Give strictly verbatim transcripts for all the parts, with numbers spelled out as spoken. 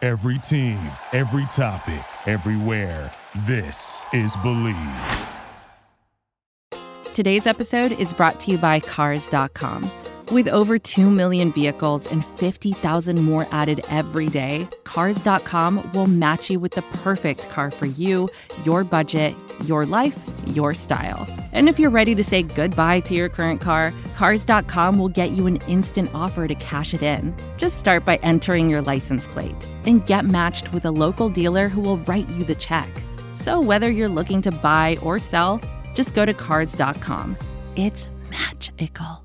Every team, every topic, everywhere. This is Believe. Today's episode is brought to you by Cars dot com. With over two million vehicles and fifty thousand more added every day, Cars dot com will match you with the perfect car for you, your budget, your life, your style. And if you're ready to say goodbye to your current car, Cars dot com will get you an instant offer to cash it in. Just start by entering your license plate and get matched with a local dealer who will write you the check. So whether you're looking to buy or sell, just go to Cars dot com. It's magical.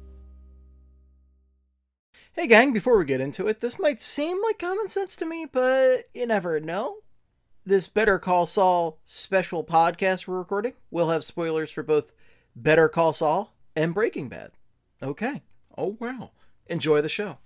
Hey gang, before we get into it, this might seem like common sense to me, but you never know. This Better Call Saul special podcast we're recording will have spoilers for both Better Call Saul and Breaking Bad. Okay. Oh wow. Enjoy the show.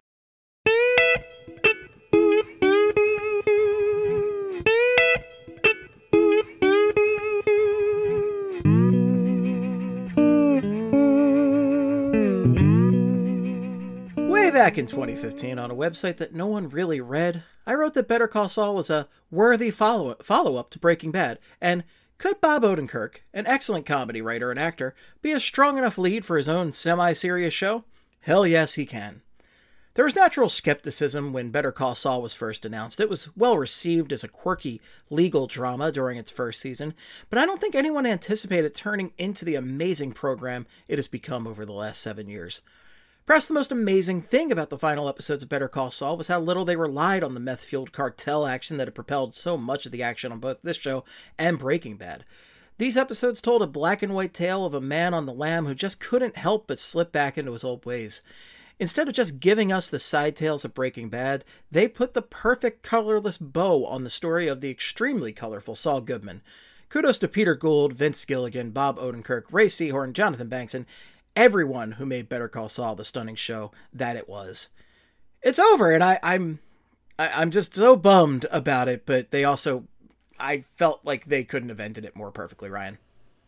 Back in twenty fifteen, on a website that no one really read, I wrote that Better Call Saul was a worthy follow- follow-up to Breaking Bad, and could Bob Odenkirk, an excellent comedy writer and actor, be a strong enough lead for his own semi-serious show? Hell yes, he can. There was natural skepticism when Better Call Saul was first announced. It was well received as a quirky legal drama during its first season, but I don't think anyone anticipated turning into the amazing program it has become over the last seven years. Perhaps the most amazing thing about the final episodes of Better Call Saul was how little they relied on the meth-fueled cartel action that had propelled so much of the action on both this show and Breaking Bad. These episodes told a black and white tale of a man on the lam who just couldn't help but slip back into his old ways. Instead of just giving us the side tales of Breaking Bad, they put the perfect colorless bow on the story of the extremely colorful Saul Goodman. Kudos to Peter Gould, Vince Gilligan, Bob Odenkirk, Ray Seahorn, Jonathan Banks, and everyone who made Better Call Saul the stunning show that it was. It's over, and I, I'm I, I'm just so bummed about it, but they also, I felt like they couldn't have ended it more perfectly, Ryan.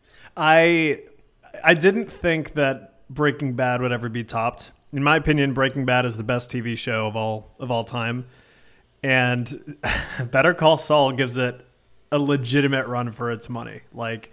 I I didn't think that Breaking Bad would ever be topped. In my opinion, Breaking Bad is the best T V show of all of all time, and Better Call Saul gives it a legitimate run for its money. Like,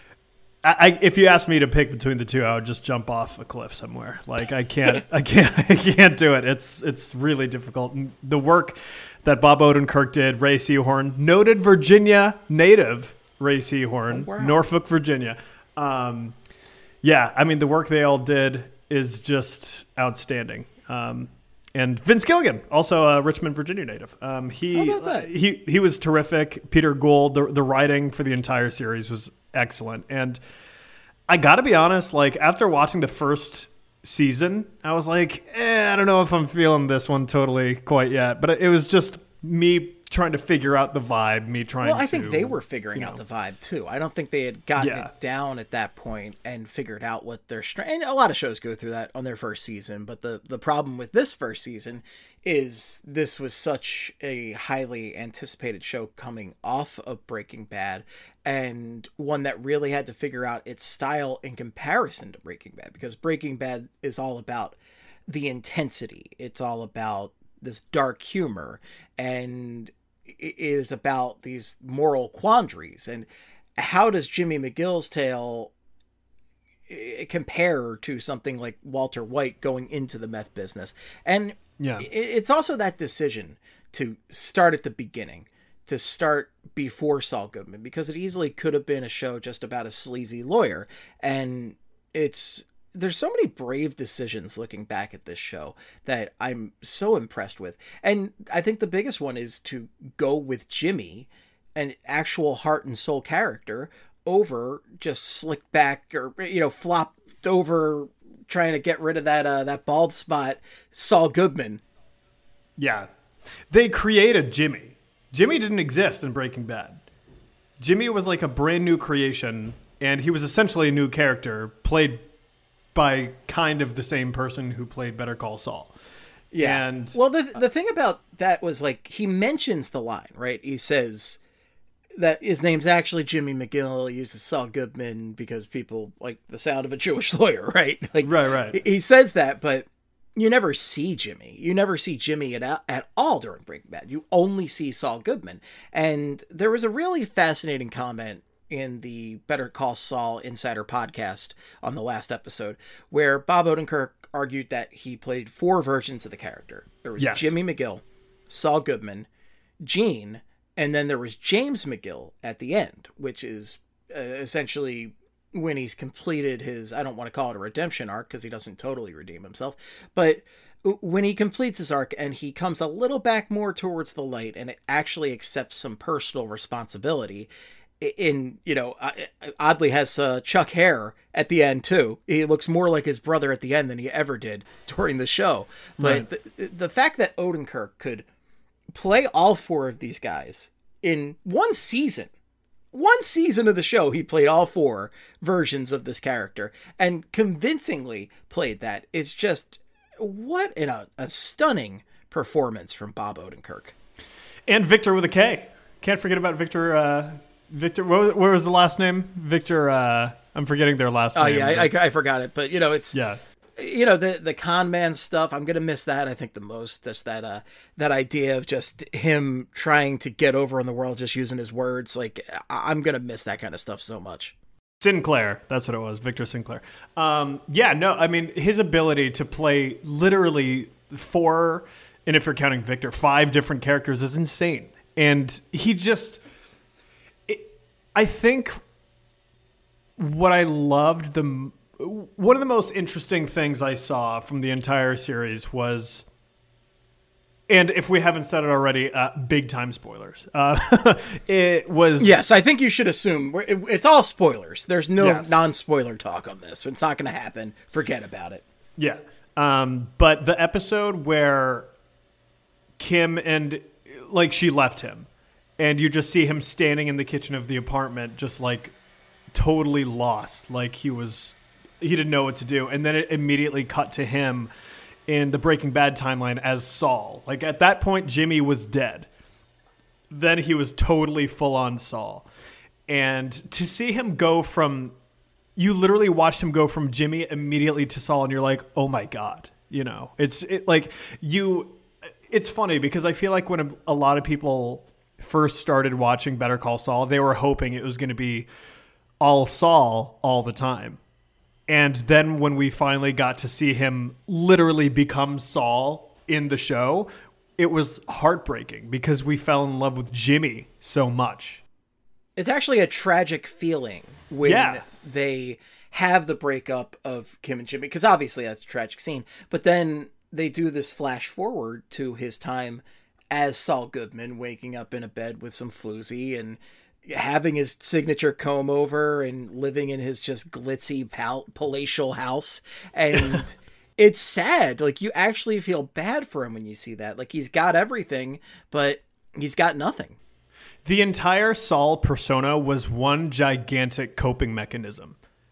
I, if you asked me to pick between the two, I would just jump off a cliff somewhere. Like I can't, I can't, I can't do it. It's it's really difficult. And the work that Bob Odenkirk did, Ray Seahorn, noted Virginia native Ray Seahorn, oh, wow. Norfolk, Virginia. Um, yeah, I mean the work they all did is just outstanding. Um, and Vince Gilligan, also a Richmond, Virginia native. Um, he How about that? he he was terrific. Peter Gould, the the writing for the entire series was excellent. And I gotta be honest, like after watching the first season, I was like, eh, I don't know if I'm feeling this one totally quite yet. But it was just me trying to figure out the vibe, me trying to... Well, I think they were figuring you know, out the vibe too. I don't think they had gotten Yeah. it down at that point and figured out what their strength... And a lot of shows go through that on their first season, but the, the problem with this first season is this was such a highly anticipated show coming off of Breaking Bad, and one that really had to figure out its style in comparison to Breaking Bad, because Breaking Bad is all about the intensity. It's all about this dark humor, and it is about these moral quandaries. And how does Jimmy McGill's tale compare to something like Walter White going into the meth business? And Yeah. it's also that decision to start at the beginning, to start before Saul Goodman, because it easily could have been a show just about a sleazy lawyer. And it's, there's so many brave decisions looking back at this show that I'm so impressed with. And I think the biggest one is to go with Jimmy, an actual heart and soul character, over just slick back or, you know, flopped over trying to get rid of that, uh, that bald spot, Saul Goodman. Yeah. They created Jimmy. Jimmy didn't exist in Breaking Bad. Jimmy was like a brand new creation, and he was essentially a new character played by kind of the same person who played Better Call Saul. Yeah. And well, the the thing about that was, like, he mentions the line, right? He says that his name's actually Jimmy McGill. He uses Saul Goodman because people like the sound of a Jewish lawyer, right? Like, Right, right. He says that, but you never see Jimmy. You never see Jimmy at, at all during Breaking Bad. You only see Saul Goodman. And there was a really fascinating comment in the Better Call Saul Insider podcast on the last episode where Bob Odenkirk argued that he played four versions of the character. There was yes. Jimmy McGill, Saul Goodman, Gene, and then there was James McGill at the end, which is uh, essentially when he's completed his, I don't want to call it a redemption arc because he doesn't totally redeem himself, but when he completes his arc and he comes a little back more towards the light and it actually accepts some personal responsibility in, you know, oddly has uh, Chuck hair at the end too. He looks more like his brother at the end than he ever did during the show. But right. the, the fact that Odenkirk could play all four of these guys in one season, one season of the show, he played all four versions of this character and convincingly played that. It's just, what in a, a stunning performance from Bob Odenkirk. And Victor with a K. Can't forget about Victor, uh, Victor, what was, what was the last name? Victor, uh, I'm forgetting their last oh, name. Oh, yeah, I, I, I forgot it. But, you know, it's, yeah. you know, the the con man stuff, I'm going to miss that, I think, the most. Just that uh, that idea of just him trying to get over in the world, just using his words. Like, I'm going to miss that kind of stuff so much. Sinclair, that's what it was, Victor Sinclair. Um, yeah, no, I mean, his ability to play literally four, and if you're counting Victor, five different characters is insane. And he just... I think what I loved, the one of the most interesting things I saw from the entire series was, and if we haven't said it already, uh, big time spoilers. Uh, it was... Yes, I think you should assume it's all spoilers. There's no yes. non-spoiler talk on this. It's not going to happen. Forget about it. Yeah. Um, but the episode where Kim and, like, she left him, and you just see him standing in the kitchen of the apartment, just like totally lost. Like he was, he didn't know what to do. And then it immediately cut to him in the Breaking Bad timeline as Saul. Like at that point, Jimmy was dead. Then he was totally full on Saul. And to see him go from, you literally watched him go from Jimmy immediately to Saul. And you're like, oh my God, you know, it's it, like you, it's funny because I feel like when a, a lot of people first started watching Better Call Saul, they were hoping it was going to be all Saul all the time. And then when we finally got to see him literally become Saul in the show, it was heartbreaking because we fell in love with Jimmy so much. It's actually a tragic feeling when yeah. they have the breakup of Kim and Jimmy, because obviously that's a tragic scene, but then they do this flash forward to his time as Saul Goodman, waking up in a bed with some floozy and having his signature comb over and living in his just glitzy pal- palatial house. And it's sad. Like, you actually feel bad for him when you see that. Like, he's got everything, but he's got nothing. The entire Saul persona was one gigantic coping mechanism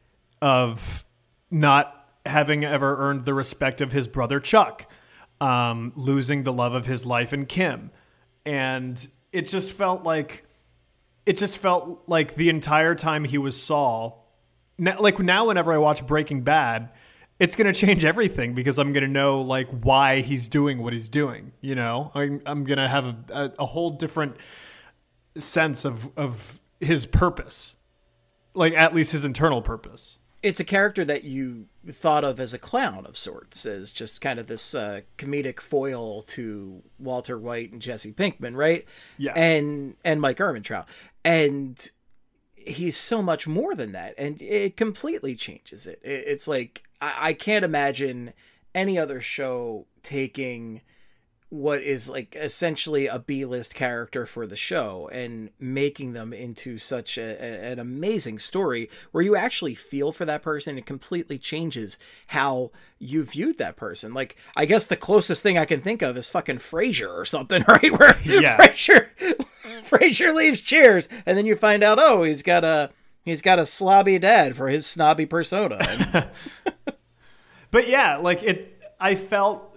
of not having ever earned the respect of his brother Chuck. Um, losing the love of his life in Kim. And it just felt like, it just felt like the entire time he was Saul, now, like now whenever I watch Breaking Bad, it's going to change everything because I'm going to know like why he's doing what he's doing. You know, I'm, I'm going to have a, a, a whole different sense of, of his purpose, like at least his internal purpose. It's a character that you thought of as a clown of sorts, as just kind of this uh, comedic foil to Walter White and Jesse Pinkman, right? Yeah. And and Mike Ehrmantraut. And he's so much more than that. And it completely changes it. It's like, I, I can't imagine any other show taking what is like essentially a B-list character for the show and making them into such a, a, an amazing story where you actually feel for that person. It completely changes how you viewed that person. Like, I guess the closest thing I can think of is fucking Frasier or something, right? Where yeah. Frasier, Frasier leaves Cheers and then you find out, oh, he's got a, he's got a slobby dad for his snobby persona. But yeah, like it, I felt...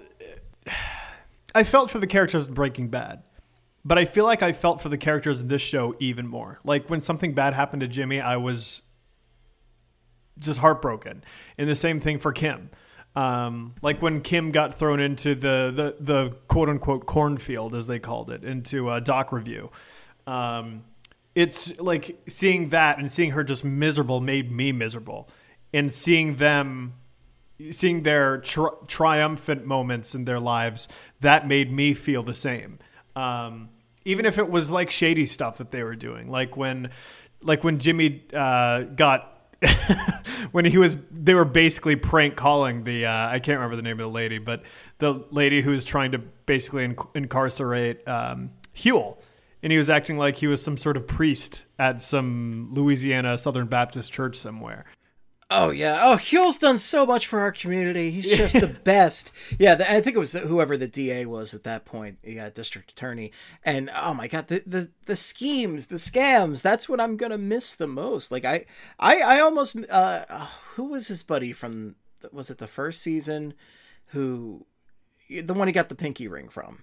I felt for the characters in Breaking Bad, but I feel like I felt for the characters in this show even more. Like when something bad happened to Jimmy, I was just heartbroken. And the same thing for Kim. Um, like when Kim got thrown into the, the, the quote unquote cornfield, as they called it, into a doc review. Um, it's like seeing that and seeing her just miserable made me miserable, and seeing them, seeing their tri- triumphant moments in their lives, that made me feel the same. Um, even if it was like shady stuff that they were doing, like when, like when Jimmy, uh, got, when he was, they were basically prank calling the, uh, I can't remember the name of the lady, but the lady who was trying to basically inc- incarcerate, um, Huel. And he was acting like he was some sort of priest at some Louisiana Southern Baptist church somewhere. Oh, yeah. Oh, Huel's done so much for our community. He's just the best. Yeah, the, I think it was whoever the D A was at that point, yeah, district attorney. And, oh, my God, the the, the schemes, the scams, that's what I'm going to miss the most. Like, I, I, I almost, uh, oh, who was his buddy from, was it the first season? Who, the one he got the pinky ring from?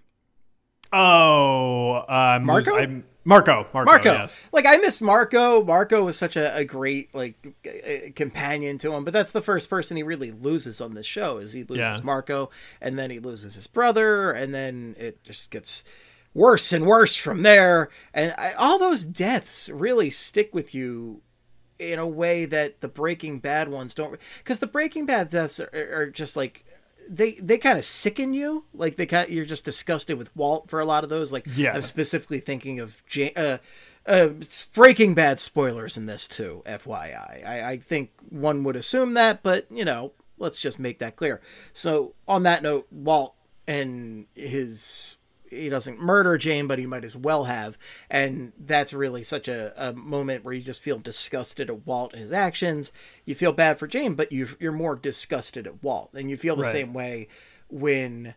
Oh, um, Marco? I'm, Marco, Marco, Marco. Yes. Like, I miss Marco. Marco was such a, a great, like, uh, companion to him, but that's the first person he really loses on this show, is he loses Yeah. Marco, and then he loses his brother, and then it just gets worse and worse from there. And I, all those deaths really stick with you in a way that the Breaking Bad ones don't, because the Breaking Bad deaths are, are just like, they they kind of sicken you. Like, they kind of, you're just disgusted with Walt for a lot of those. Like, Yeah. I'm specifically thinking of Ja- uh, uh, Breaking Bad spoilers in this too, F Y I. I. I think one would assume that, but, you know, let's just make that clear. So, on that note, Walt and his, he doesn't murder Jane, but he might as well have. And that's really such a, a moment where you just feel disgusted at Walt and his actions. You feel bad for Jane, but you, you're more disgusted at Walt. And you feel the Right. same way when,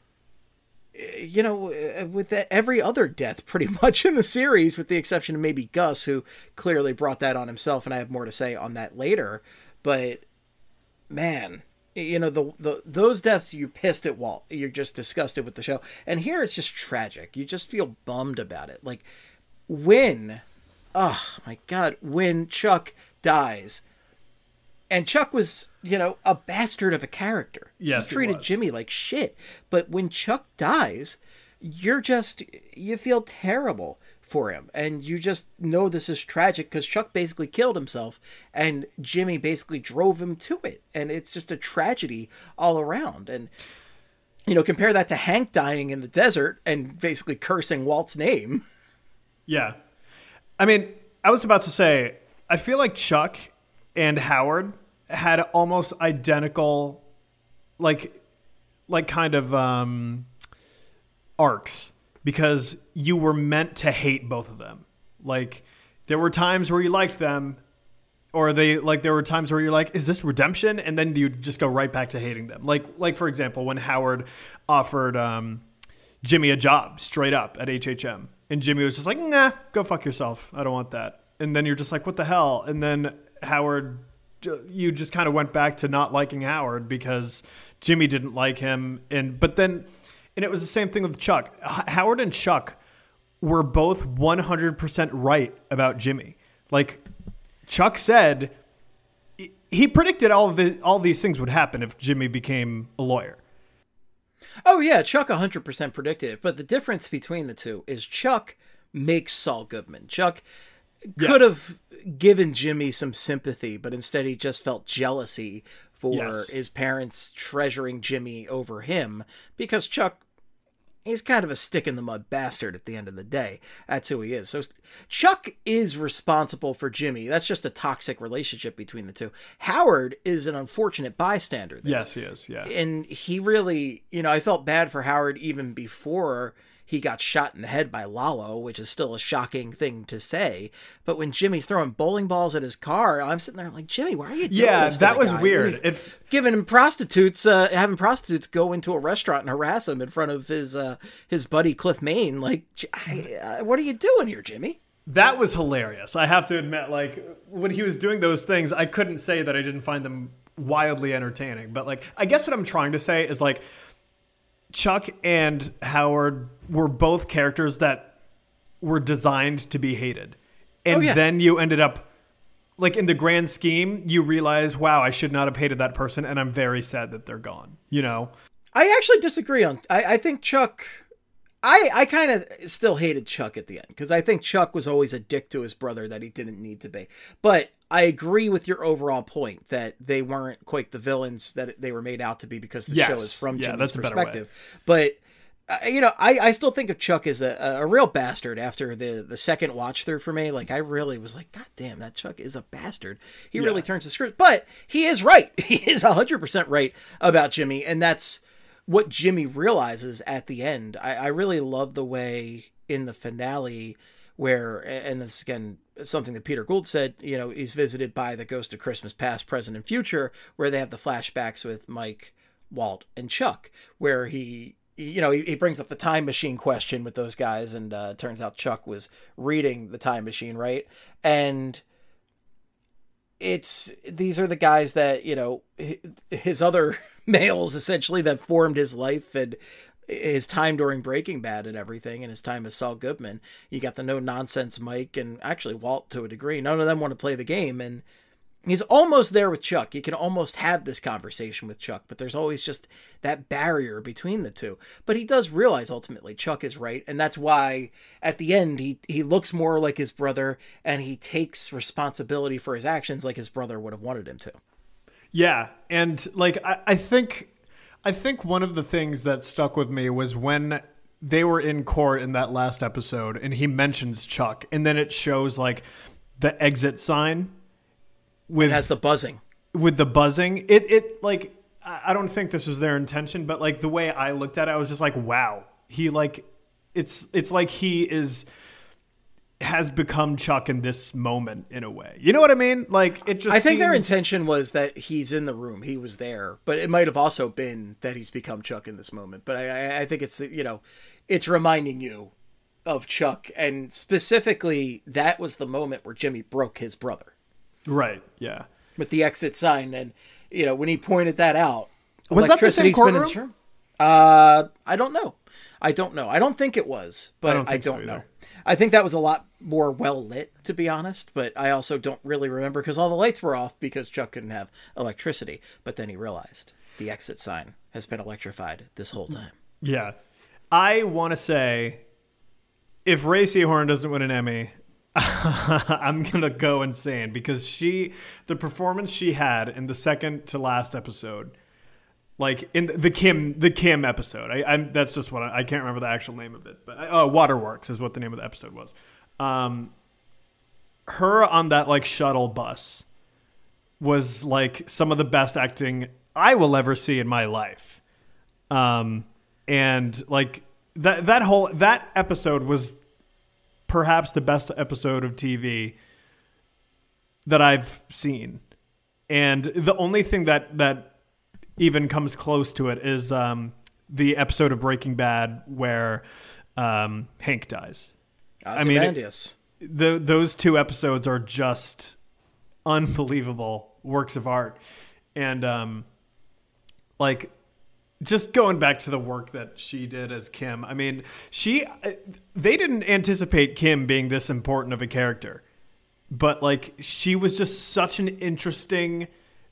you know, with every other death pretty much in the series, with the exception of maybe Gus, who clearly brought that on himself. And I have more to say on that later. But, man, you know, the, the those deaths, you pissed at Walt. You're just disgusted with the show. And here it's just tragic. You just feel bummed about it. Like, when, oh my God, when Chuck dies, and Chuck was, you know, a bastard of a character. Yes, he he treated was. Jimmy like shit. But when Chuck dies, you're just, you feel terrible for him, and you just know this is tragic because Chuck basically killed himself and Jimmy basically drove him to it, and it's just a tragedy all around. And, you know, compare that to Hank dying in the desert and basically cursing Walt's name. Yeah. I mean, I was about to say, I feel like Chuck and Howard had almost identical, like, like kind of um, arcs, because you were meant to hate both of them. Like, there were times where you liked them, or they, like, there were times where you're like, is this redemption? And then you just go right back to hating them. Like, like for example, when Howard offered um, Jimmy a job straight up at H H M, and Jimmy was just like, nah, go fuck yourself. I don't want that. And then you're just like, what the hell? And then Howard, you just kind of went back to not liking Howard because Jimmy didn't like him. And, but then, and it was the same thing with Chuck. H- Howard and Chuck were both one hundred percent right about Jimmy. Like, Chuck said, he predicted all of the, all these things would happen if Jimmy became a lawyer. Oh yeah, Chuck one hundred percent predicted it, but the difference between the two is Chuck makes Saul Goodman. Chuck could Yeah. have given Jimmy some sympathy, but instead he just felt jealousy for Yes. his parents treasuring Jimmy over him, because Chuck, he's kind of a stick in the mud bastard at the end of the day. That's who he is. So Chuck is responsible for Jimmy. That's just a toxic relationship between the two. Howard is an unfortunate bystander there. Yes, he is. Yeah. And he really, you know, I felt bad for Howard even before he got shot in the head by Lalo, which is still a shocking thing to say. But when Jimmy's throwing bowling balls at his car, I'm sitting there like, Jimmy, why are you doing Yeah, this to that the was guy? weird. He's If giving him prostitutes, uh, having prostitutes go into a restaurant and harass him in front of his uh, his buddy Cliff Main. Like, I, uh, what are you doing here, Jimmy? That was hilarious. I have to admit, like, when he was doing those things, I couldn't say that I didn't find them wildly entertaining. But, like, I guess what I'm trying to say is, like, Chuck and Howard were both characters that were designed to be hated. And Oh, yeah. then you ended up like in the grand scheme, you realize, wow, I should not have hated that person, and I'm very sad that they're gone. You know, I actually disagree on. I, I think Chuck. I I kind of still hated Chuck at the end because I think Chuck was always a dick to his brother that he didn't need to be. But I agree with your overall point that they weren't quite the villains that they were made out to be because the yes. show is from yeah, Jimmy's that's a perspective. better way. But uh, you know, I, I still think of Chuck as a, a real bastard after the, the second watch through for me. Like, I really was like, God damn, that Chuck is a bastard. He yeah. really turns the screws. But he is right. He is one hundred percent right about Jimmy. And that's what Jimmy realizes at the end. I, I really love the way in the finale where, and this again, something that Peter Gould said, you know, he's visited by the ghost of Christmas past, present, and future, where they have the flashbacks with Mike, Walt, and Chuck, where he... you know, he, he brings up the time machine question with those guys, and uh, turns out Chuck was reading the time machine, right? And it's, these are the guys that, you know, his other males, essentially, that formed his life and his time during Breaking Bad and everything, and his time as Saul Goodman. You got the no-nonsense Mike, and actually Walt to a degree. None of them want to play the game, and he's almost there with Chuck. You can almost have this conversation with Chuck, but there's always just that barrier between the two. But he does realize ultimately Chuck is right, and that's why at the end he he looks more like his brother, and he takes responsibility for his actions like his brother would have wanted him to. Yeah, and like I, I think I think one of the things that stuck with me was when they were in court in that last episode, and he mentions Chuck, and then it shows like the exit sign. With, it has the buzzing. With the buzzing. It, it like, I don't think this was their intention, but like the way I looked at it, I was just like, wow. He like, it's, it's like he is, has become Chuck in this moment in a way. You know what I mean? Like it just I think seemed... their intention was that he's in the room. He was there, but it might have also been that he's become Chuck in this moment. But I, I think it's, you know, it's reminding you of Chuck. And specifically, that was the moment where Jimmy broke his brother. Right. Yeah. With the exit sign, and you know when he pointed that out, was that the same courtroom? Uh, I don't know. I don't know. I don't think it was, but I don't, I don't so know. I think that was a lot more well lit, to be honest. But I also don't really remember because all the lights were off because Chuck couldn't have electricity. But then he realized the exit sign has been electrified this whole time. Yeah, I want to say, if Ray Seahorn doesn't win an Emmy, I'm going to go insane because she, the performance she had in the second to last episode, like in the Kim, the Kim episode, I, I'm, that's just what I, I can't remember the actual name of it, but oh, Waterworks is what the name of the episode was. Um, her on that like shuttle bus was like some of the best acting I will ever see in my life. Um, and like that, that whole, that episode was perhaps the best episode of T V that I've seen. And the only thing that, that even comes close to it is um, the episode of Breaking Bad where um, Hank dies. I mean, it, the, those two episodes are just unbelievable works of art. And um, like, just going back to the work that she did as Kim, I mean, she, they didn't anticipate Kim being this important of a character, but like she was just such an interesting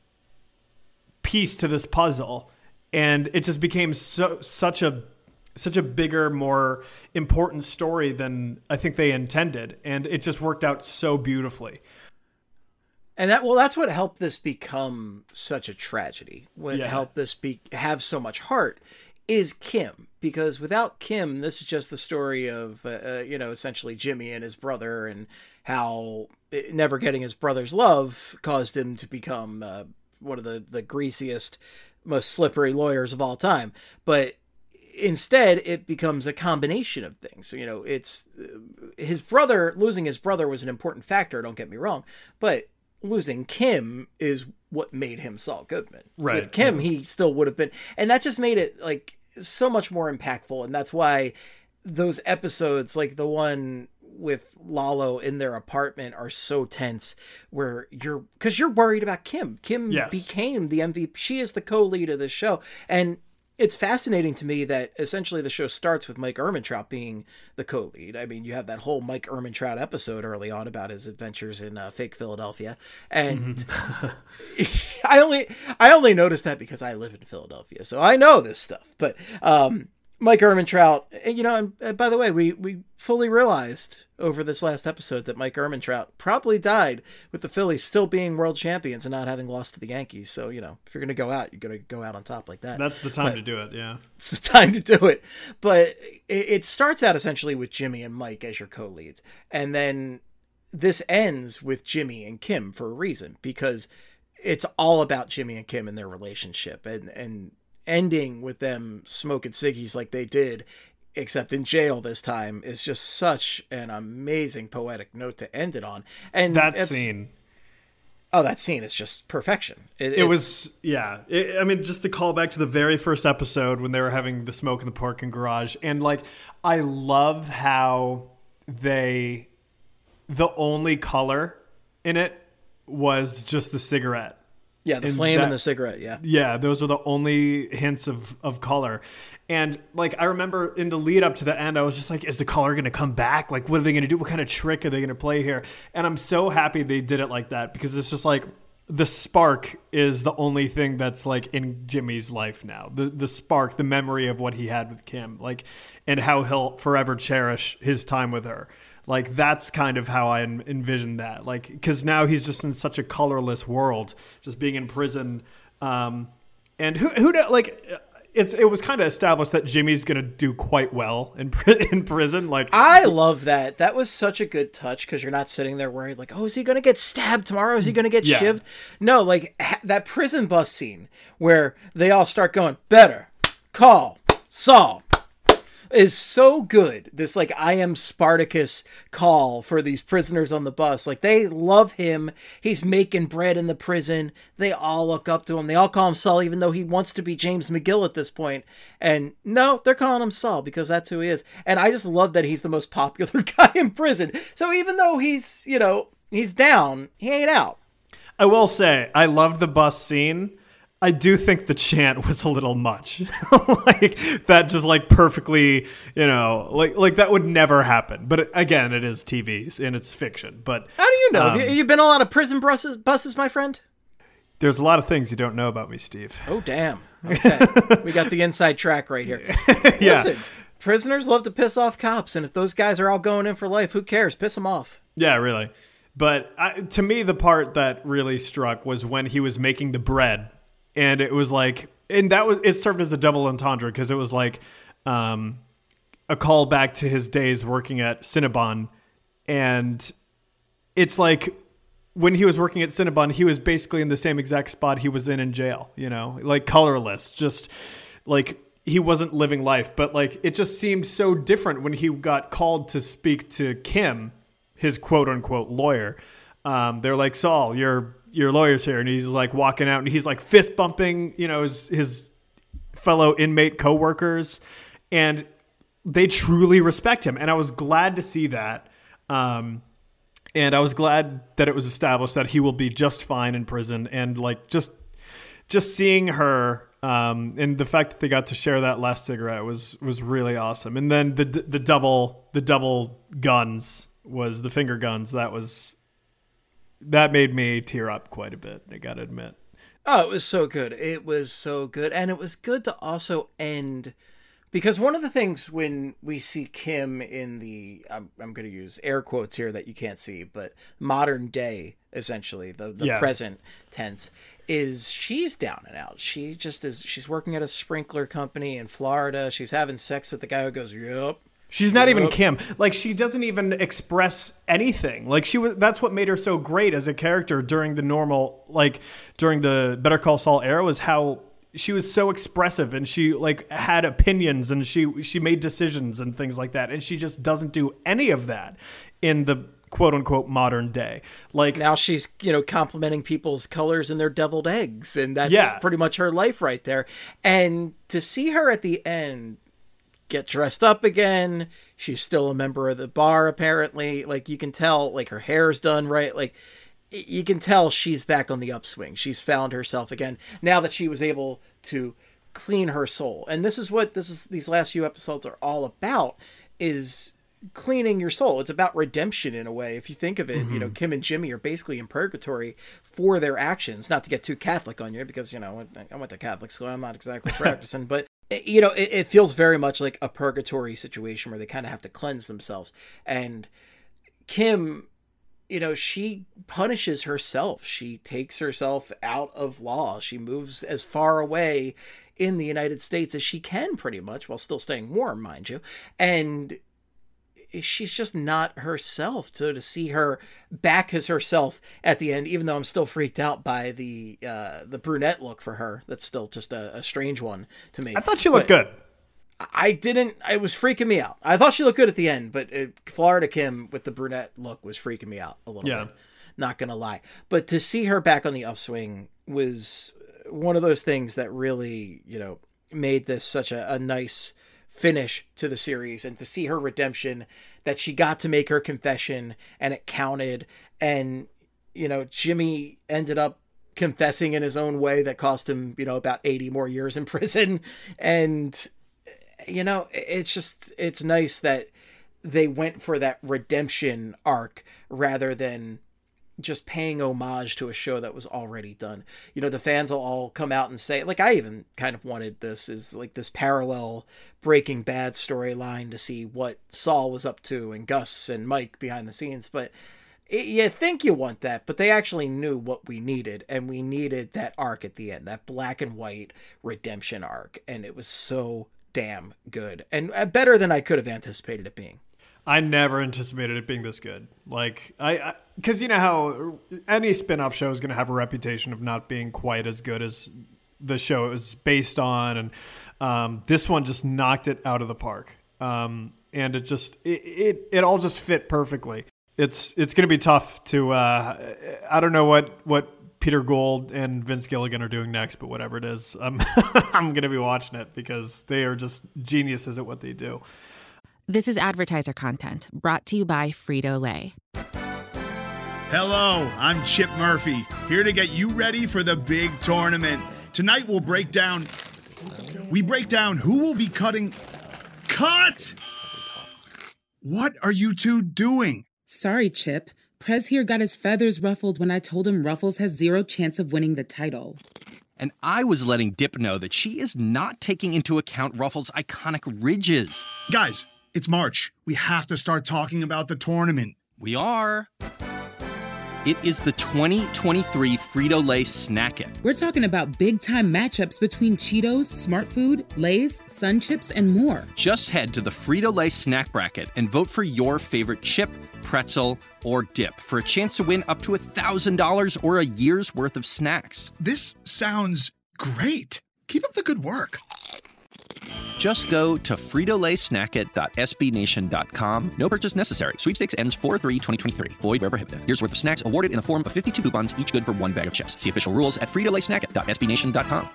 piece to this puzzle, and it just became so such a such a bigger, more important story than I think they intended, and it just worked out so beautifully. And that, well, that's what helped this become such a tragedy. What yeah. helped this be have so much heart is Kim, because without Kim, this is just the story of, uh, you know, essentially Jimmy and his brother, and how never getting his brother's love caused him to become uh, one of the, the greasiest, most slippery lawyers of all time. But instead, it becomes a combination of things. So, you know, it's his brother, losing his brother was an important factor, don't get me wrong, but losing Kim is what made him Saul Goodman. Right. With Kim, he still would have been, and that just made it like so much more impactful. And that's why those episodes, like the one with Lalo in their apartment, are so tense, where you're, because you're worried about Kim. Kim yes. became the M V P. She is the co-lead of the show. And it's fascinating to me that essentially the show starts with Mike Ehrmantraut being the co-lead. I mean, you have that whole Mike Ehrmantraut episode early on about his adventures in uh, fake Philadelphia, and mm-hmm. I only I only noticed that because I live in Philadelphia, so I know this stuff. But um, Mike Ehrmantraut, you know, and, and by the way, we we fully realized over this last episode that Mike Ehrmantraut probably died with the Phillies still being world champions and not having lost to the Yankees. So, you know, if you're going to go out, you're going to go out on top like that. That's the time but to do it, yeah. It's the time to do it. But it, it starts out essentially with Jimmy and Mike as your co-leads. And then this ends with Jimmy and Kim for a reason, because it's all about Jimmy and Kim and their relationship, and, and ending with them smoking ciggies like they did, except in jail this time, is just such an amazing poetic note to end it on. And that scene, oh, that scene is just perfection. It, it was, yeah. It, I mean, just to call back to the very first episode when they were having the smoke in the parking garage, and like, I love how they, the only color in it was just the cigarette. Yeah, the and flame that, and the cigarette, yeah. Yeah, those are the only hints of, of color. And, like, I remember in the lead up to the end, I was just like, is the color going to come back? Like, what are they going to do? What kind of trick are they going to play here? And I'm so happy they did it like that, because it's just like the spark is the only thing that's, like, in Jimmy's life now. The the spark, the memory of what he had with Kim, like, and how he'll forever cherish his time with her. Like, that's kind of how I envision that. Like, because now he's just in such a colorless world, just being in prison. Um, and who, who, like, it's it was kind of established that Jimmy's going to do quite well in in prison. Like, I love that. That was such a good touch, because you're not sitting there worried, like, oh, is he going to get stabbed tomorrow? Is he going to get yeah. shivved? No, like, ha- that prison bus scene where they all start going, better call Saul, is so good. This, like, I am Spartacus call for these prisoners on the bus. Like, they love him. He's making bread in the prison. They all look up to him. They all call him Saul, even though he wants to be James McGill at this point. And no, they're calling him Saul because that's who he is. And I just love that he's the most popular guy in prison. So even though he's, you know, he's down, he ain't out. I will say, I love the bus scene. I do think the chant was a little much. Like, that just, like, perfectly, you know, like like that would never happen. But again, it is T V and it's fiction. But how do you know? Um, Have you, you been on a lot of prison buses, buses, my friend? There's a lot of things you don't know about me, Steve. Oh, damn. Okay. We got the inside track right here. Yeah. Listen, prisoners love to piss off cops, and if those guys are all going in for life, who cares? Piss them off. Yeah, really. But I, to me, the part that really struck was when he was making the bread. And it was like, and that was, it served as a double entendre, because it was like um, a callback to his days working at Cinnabon. And it's like, when he was working at Cinnabon, he was basically in the same exact spot he was in in jail, you know, like colorless, just like he wasn't living life. But like, it just seemed so different when he got called to speak to Kim, his quote unquote lawyer. Um, they're like, Saul, you're, your lawyer's here. And he's like walking out and he's like fist bumping, you know, his, his fellow inmate coworkers, and they truly respect him. And I was glad to see that. Um, and I was glad that it was established that he will be just fine in prison. And like, just, just seeing her, um, and the fact that they got to share that last cigarette was, was really awesome. And then the, the double, the double guns was the finger guns. That was, That made me tear up quite a bit, I gotta admit. Oh, it was so good. It was so good. And it was good to also end, because one of the things when we see Kim in the, I'm, I'm going to use air quotes here that you can't see, but modern day, essentially, the, the yeah. present tense, is she's down and out. She just is, she's working at a sprinkler company in Florida. She's having sex with the guy who goes, yep. She's not even Kim. Like, she doesn't even express anything. Like, she was, that's what made her so great as a character during the normal, like, during the Better Call Saul era, was how she was so expressive, and she like had opinions, and she, she made decisions and things like that. And she just doesn't do any of that in the quote unquote modern day. Like, now she's, you know, complimenting people's colors and their deviled eggs. And that's yeah. pretty much her life right there. And to see her at the end get dressed up again, she's still a member of the bar apparently, like you can tell, like her hair's done right, like you can tell she's back on the upswing. She's found herself again now that she was able to clean her soul. And this is what this is these last few episodes are all about, is cleaning your soul. It's about redemption in a way. If you think of it, mm-hmm. you know, Kim and Jimmy are basically in purgatory for their actions. Not to get too Catholic on you, because, you know, I went to Catholic school. I'm not exactly practicing, but you know, it, it feels very much like a purgatory situation where they kind of have to cleanse themselves. And Kim, you know, she punishes herself. She takes herself out of law. She moves as far away in the United States as she can, pretty much, while still staying warm, mind you. And she's just not herself. So to see her back as herself at the end, even though I'm still freaked out by the uh, the brunette look for her, that's still just a, a strange one to me. I thought she looked but good. I didn't. It was freaking me out. I thought she looked good at the end, but it, Florida Kim with the brunette look was freaking me out a little yeah. bit. Not gonna lie. But to see her back on the upswing was one of those things that really, you know, made this such a, a nice finish to the series. And to see her redemption, that she got to make her confession and it counted. And, you know, Jimmy ended up confessing in his own way that cost him, you know, about eighty more years in prison. And, you know, it's just, it's nice that they went for that redemption arc rather than just paying homage to a show that was already done. You know, the fans will all come out and say, like, I even kind of wanted this is like this parallel Breaking Bad storyline to see what Saul was up to and Gus and Mike behind the scenes. But it, you think you want that, but they actually knew what we needed, and we needed that arc at the end, that black and white redemption arc. And it was so damn good and better than I could have anticipated it being. I never anticipated it being this good. Like, I, because you know how any spin-off show is going to have a reputation of not being quite as good as the show it was based on. And um, this one just knocked it out of the park. Um, and it just, it, it, it all just fit perfectly. It's, it's going to be tough to, uh, I don't know what, what Peter Gould and Vince Gilligan are doing next, but whatever it is, I'm, I'm going to be watching it because they are just geniuses at what they do. This is advertiser content brought to you by Frito-Lay. Hello, I'm Chip Murphy, here to get you ready for the big tournament. Tonight we'll break down, we break down who will be cutting, cut! What are you two doing? Sorry, Chip. Prez here got his feathers ruffled when I told him Ruffles has zero chance of winning the title. And I was letting Dip know that she is not taking into account Ruffles' iconic ridges. Guys, it's March. We have to start talking about the tournament. We are. It is the twenty twenty-three Frito-Lay Snack It. We're talking about big-time matchups between Cheetos, Smart Food, Lay's, Sun Chips, and more. Just head to the Frito-Lay Snack Bracket and vote for your favorite chip, pretzel, or dip for a chance to win up to one thousand dollars or a year's worth of snacks. This sounds great. Keep up the good work. Just go to Frito Lay Snack It dot S B Nation dot com. No purchase necessary. Sweepstakes ends four three twenty twenty-three. Void where prohibited. Here's worth of snacks awarded in the form of fifty-two coupons, each good for one bag of chips. See official rules at Frito Lay Snack It dot S B Nation dot com.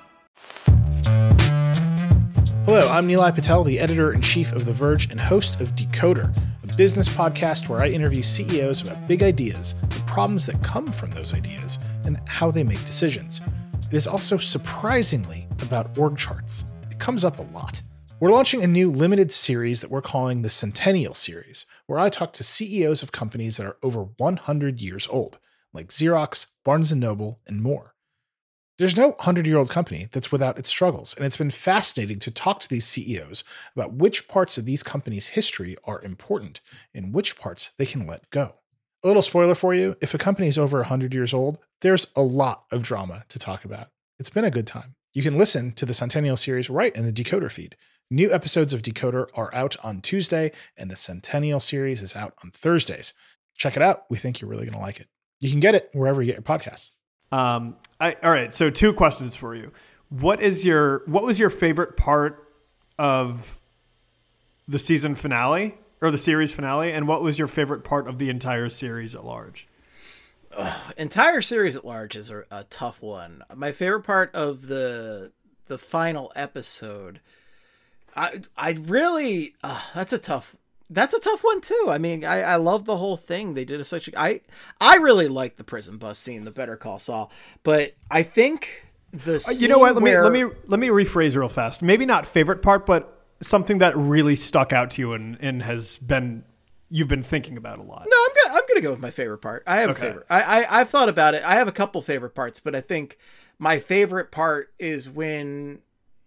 Hello, I'm Nilay Patel, the editor-in-chief of The Verge and host of Decoder, a business podcast where I interview C E Os about big ideas, the problems that come from those ideas, and how they make decisions. It is also surprisingly about org charts. It comes up a lot. We're launching a new limited series that we're calling the Centennial Series, where I talk to C E Os of companies that are over one hundred years old, like Xerox, Barnes and Noble, and more. There's no hundred-year-old company that's without its struggles, and it's been fascinating to talk to these C E Os about which parts of these companies' history are important and which parts they can let go. A little spoiler for you, if a company is over one hundred years old, there's a lot of drama to talk about. It's been a good time. You can listen to the Centennial Series right in the Decoder feed. New episodes of Decoder are out on Tuesday, and the Centennial Series is out on Thursdays. Check it out. We think you're really going to like it. You can get it wherever you get your podcasts. Um, I, all right. So two questions for you. What is your, what was your favorite part of the season finale or the series finale? And what was your favorite part of the entire series at large? Ugh, entire series at large is a, a tough one. My favorite part of the, the final episode, I, I really, uh, that's a tough, that's a tough one too. I mean, I, I love the whole thing. They did a such a, I, I really like the prison bus scene, the Better Call Saul, but I think the scene you know what? Let where, me let me let me rephrase real fast. Maybe not favorite part, but something that really stuck out to you and, and has been you've been thinking about a lot. No, I'm gonna I'm gonna go with my favorite part. I have Okay. a favorite. I, I I've thought about it. I have a couple favorite parts, but I think my favorite part is when,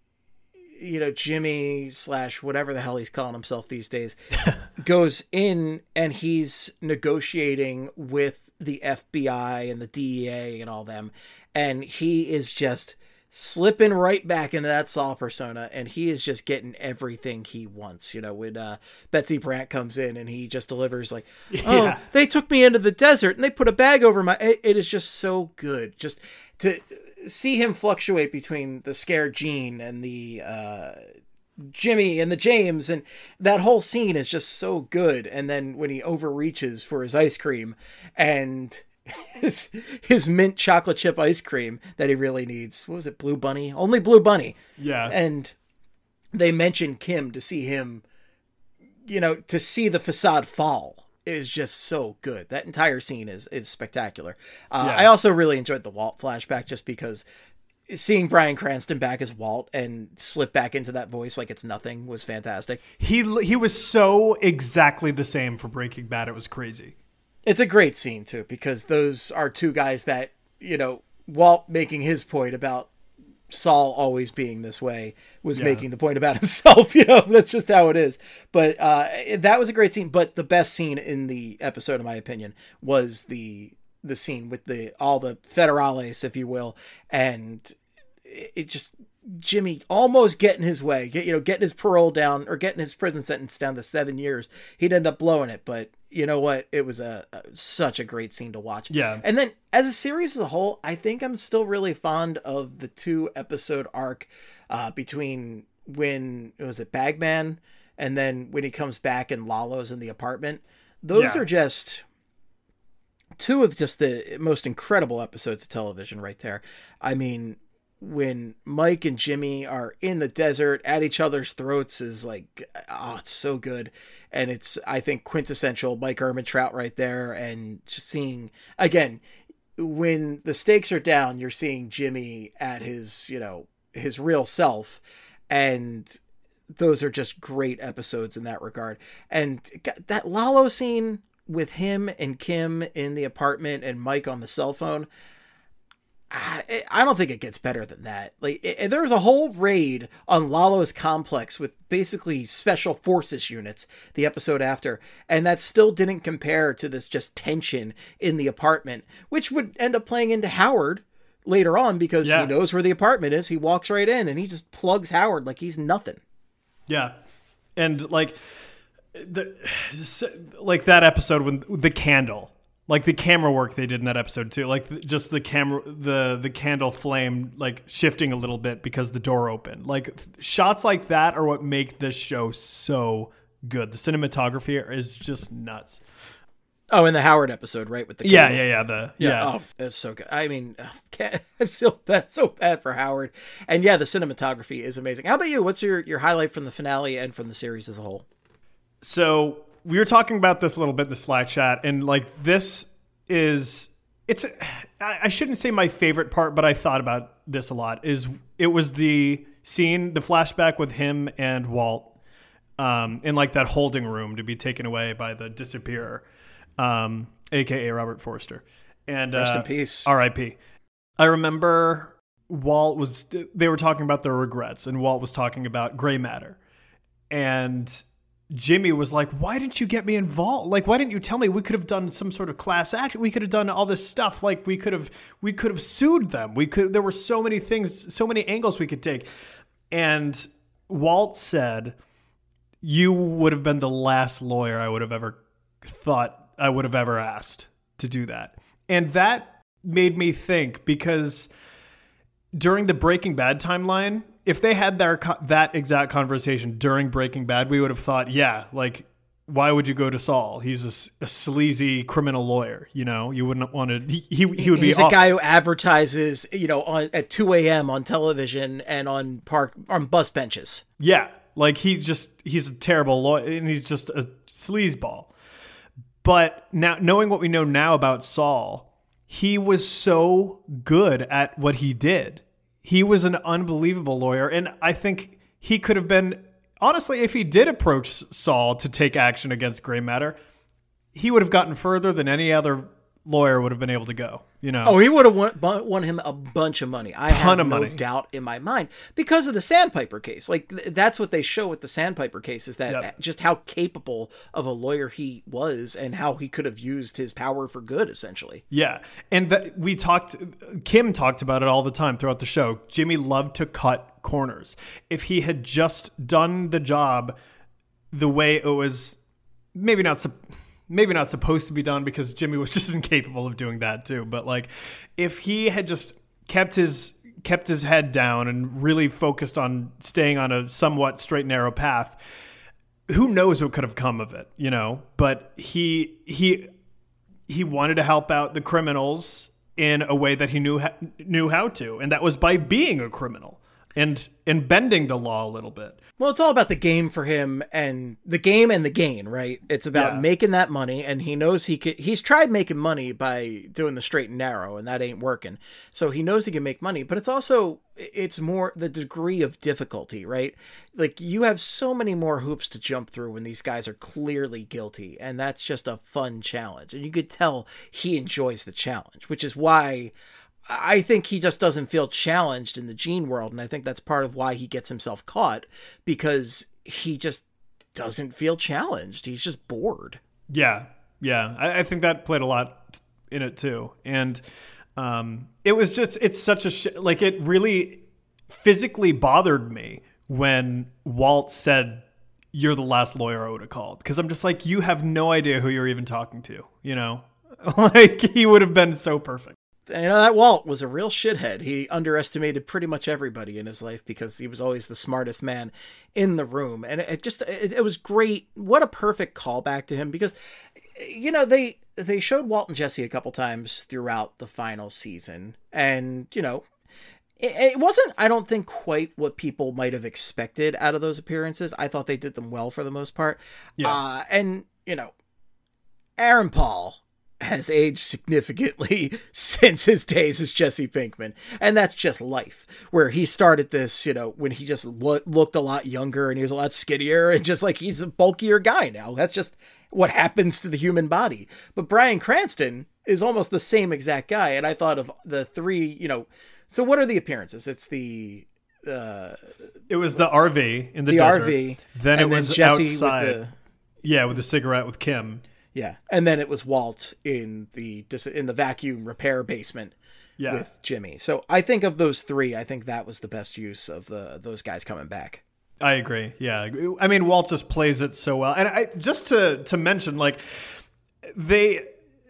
you know, Jimmy slash whatever the hell he's calling himself these days goes in and he's negotiating with the F B I and the D E A and all them, and he is just slipping right back into that Saul persona, and he is just getting everything he wants. You know, when uh, Betsy Brandt comes in and he just delivers like, oh, Yeah. they took me into the desert and they put a bag over my, it, it is just so good. Just to see him fluctuate between the scared Gene and the, uh, Jimmy and the James, and that whole scene is just so good. And then when he overreaches for his ice cream and his his mint chocolate chip ice cream that he really needs, what was it, Blue Bunny? Only Blue Bunny. Yeah. And they mention Kim to see him, you know, to see the facade fall is just so good. That entire scene is is spectacular. Uh, Yeah. I also really enjoyed the Walt flashback just because seeing Bryan Cranston back as Walt and slip back into that voice like it's nothing was fantastic. He he was so exactly the same for Breaking Bad. It was crazy. It's a great scene too, because those are two guys that, you know, Walt making his point about Saul always being this way was Yeah. making the point about himself. You know, that's just how it is. But uh, that was a great scene. But the best scene in the episode, in my opinion, was the the scene with the all the federales, if you will, and it just Jimmy almost getting his way, get, you know, getting his parole down or getting his prison sentence down to seven years. He'd end up blowing it, but you know what? It was a, a such a great scene to watch. Yeah. And then as a series as a whole, I think I'm still really fond of the two episode arc uh, between when it was it Bagman and then when he comes back and Lalo's in the apartment. Those Yeah. are just two of just the most incredible episodes of television right there. I mean, when Mike and Jimmy are in the desert at each other's throats is like, oh, it's so good. And it's, I think, quintessential Mike Ehrmantraut right there. And just seeing, again, when the stakes are down, you're seeing Jimmy at his, you know, his real self. And those are just great episodes in that regard. And that Lalo scene with him and Kim in the apartment and Mike on the cell phone, I, I don't think it gets better than that. Like it, there was a whole raid on Lalo's complex with basically special forces units the episode after, and that still didn't compare to this just tension in the apartment, which would end up playing into Howard later on because Yeah. he knows where the apartment is. He walks right in and he just plugs Howard like he's nothing. Yeah. And like the like that episode when the candle, like the camera work they did in that episode too, like just the camera, the the candle flame like shifting a little bit because the door opened. Like shots like that are what make this show so good. The cinematography is just nuts. Oh, in the Howard episode, right? With the Yeah, candle. yeah, yeah. The yeah. Oh, it's so good. I mean, can't, I feel bad, so bad for Howard. And yeah, the cinematography is amazing. How about you? What's your, your highlight from the finale and from the series as a whole? So we were talking about this a little bit in the Slack chat, and like this is it's I shouldn't say my favorite part, but I thought about this a lot. Is it was the scene, the flashback with him and Walt um, in like that holding room to be taken away by the disappearer, um, aka Robert Forster, and Rest uh, in peace. R I P I remember Walt was they were talking about their regrets, and Walt was talking about gray matter, and Jimmy was like, why didn't you get me involved? Like, why didn't you tell me? We could have done some sort of class action. We could have done all this stuff. Like, we could have, we could have sued them. We could, there were so many things, so many angles we could take. And Walt said, you would have been the last lawyer I would have ever thought I would have ever asked to do that. And that made me think, because during the Breaking Bad timeline, if they had their that exact conversation during Breaking Bad, we would have thought, yeah, like, why would you go to Saul? He's a, a sleazy criminal lawyer. You know, you wouldn't want to. He he, he would be. He's awful. a guy who advertises, you know, on at two a.m. on television and on park on bus benches. Yeah, like he just he's a terrible lawyer, and he's just a sleazeball. But now, knowing what we know now about Saul, he was so good at what he did. he was an unbelievable lawyer. And I think he could have been, honestly, if he did approach Saul to take action against Gray Matter, he would have gotten further than any other lawyer would have been able to go, you know? Oh, he would have won, won him a bunch of money. I Ton have of no money. doubt in my mind because of the Sandpiper case. Like th- that's what they show with the Sandpiper case is that Yep. just how capable of a lawyer he was and how he could have used his power for good, essentially. Yeah. And that we talked, Kim talked about it all the time throughout the show. Jimmy loved to cut corners. If he had just done the job the way it was, maybe not sup- maybe not supposed to be done, because Jimmy was just incapable of doing that too. But like, if he had just kept his kept his head down and really focused on staying on a somewhat straight and narrow path, who knows what could have come of it, you know? But he he he wanted to help out the criminals in a way that he knew ha- knew how to, and that was by being a criminal and and bending the law a little bit. Well, it's all about the game for him and the game and the gain, right? It's about Yeah. making that money, and he knows he could. He's tried making money by doing the straight and narrow, and that ain't working. So he knows he can make money, but it's also it's more the degree of difficulty, right? Like you have so many more hoops to jump through when these guys are clearly guilty, and that's just a fun challenge, and you could tell he enjoys the challenge, which is why I think he just doesn't feel challenged in the Gene world, and I think that's part of why he gets himself caught, because he just doesn't feel challenged. He's just bored. Yeah, yeah. I, I think that played a lot in it too. And um, it was just, it's such a, sh- like it really physically bothered me when Walt said, "You're the last lawyer I would have called." Because I'm just like, you have no idea who you're even talking to, you know? Like, he would have been so perfect. You know, that Walt was a real shithead. He underestimated pretty much everybody in his life because he was always the smartest man in the room. And it just, it, it was great. What a perfect callback to him, because, you know, they, they showed Walt and Jesse a couple times throughout the final season. And, you know, it, it wasn't, I don't think, quite what people might have expected out of those appearances. I thought they did them well for the most part. Yeah. Uh, and, you know, Aaron Paul has aged significantly since his days as Jesse Pinkman. And that's just life, where he started this, you know, when he just lo- looked a lot younger and he was a lot skinnier and just like, he's a bulkier guy now. That's just what happens to the human body. But Bryan Cranston is almost the same exact guy. And I thought of the three, you know, so what are the appearances? It's the, uh, It was the R V in the, the desert. R V. Then it and was Jesse outside. with the, Yeah, with the cigarette with Kim. yeah. And then it was Walt in the, in the vacuum repair basement. Yeah. With Jimmy. So I think of those three, I think that was the best use of the those guys coming back. I agree. Yeah. I mean, Walt just plays it so well. And I just to to mention, like, they,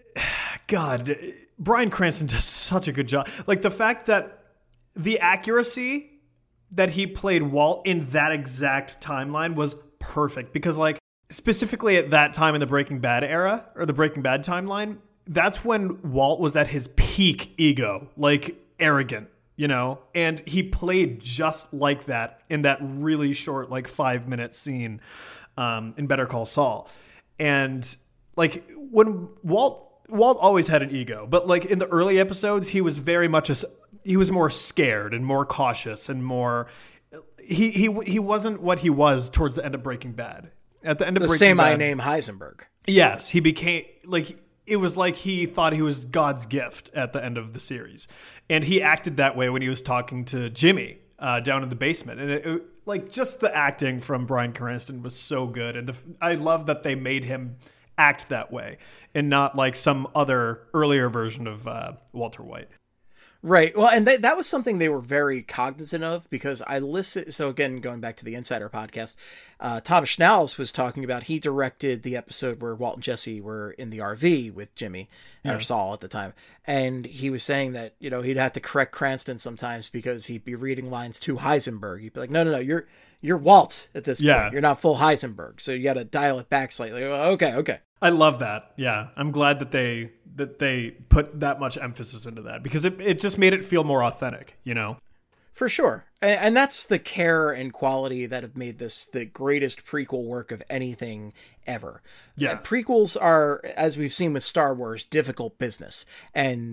God, Bryan Cranston does such a good job. Like, the fact that the accuracy that he played Walt in that exact timeline was perfect, because, like, specifically at that time in the Breaking Bad era, or the Breaking Bad timeline, that's when Walt was at his peak ego, like arrogant, you know, and he played just like that in that really short, like five minute scene um, in Better Call Saul. And like when Walt, Walt always had an ego, but like in the early episodes, he was very much a, he was more scared and more cautious and more, he, he, he wasn't what he was towards the end of Breaking Bad. At the end of The Breaking same Bad, I name Heisenberg. yes, he became like, it was like he thought he was God's gift at the end of the series. And he acted that way when he was talking to Jimmy uh, down in the basement. And it, it, like, just the acting from Bryan Cranston was so good. And the, I love that they made him act that way and not like some other earlier version of uh, Walter White. Right. Well, and they, that was something they were very cognizant of, because I listened. So again, going back to the Insider podcast, uh, Tom Schnauz was talking about, he directed the episode where Walt and Jesse were in the R V with Jimmy yeah. or Saul at the time. And he was saying that, you know, he'd have to correct Cranston sometimes because he'd be reading lines to Heisenberg. He'd be like, no, no, no, you're, you're Walt at this yeah. point. You're not full Heisenberg. So you got to dial it back slightly. Okay. Okay. I love that. Yeah. I'm glad that they, that they put that much emphasis into that, because it, it just made it feel more authentic, you know? For sure. And, and that's the care and quality that have made this the greatest prequel work of anything ever. Yeah. Uh, prequels are, as we've seen with Star Wars, difficult business. And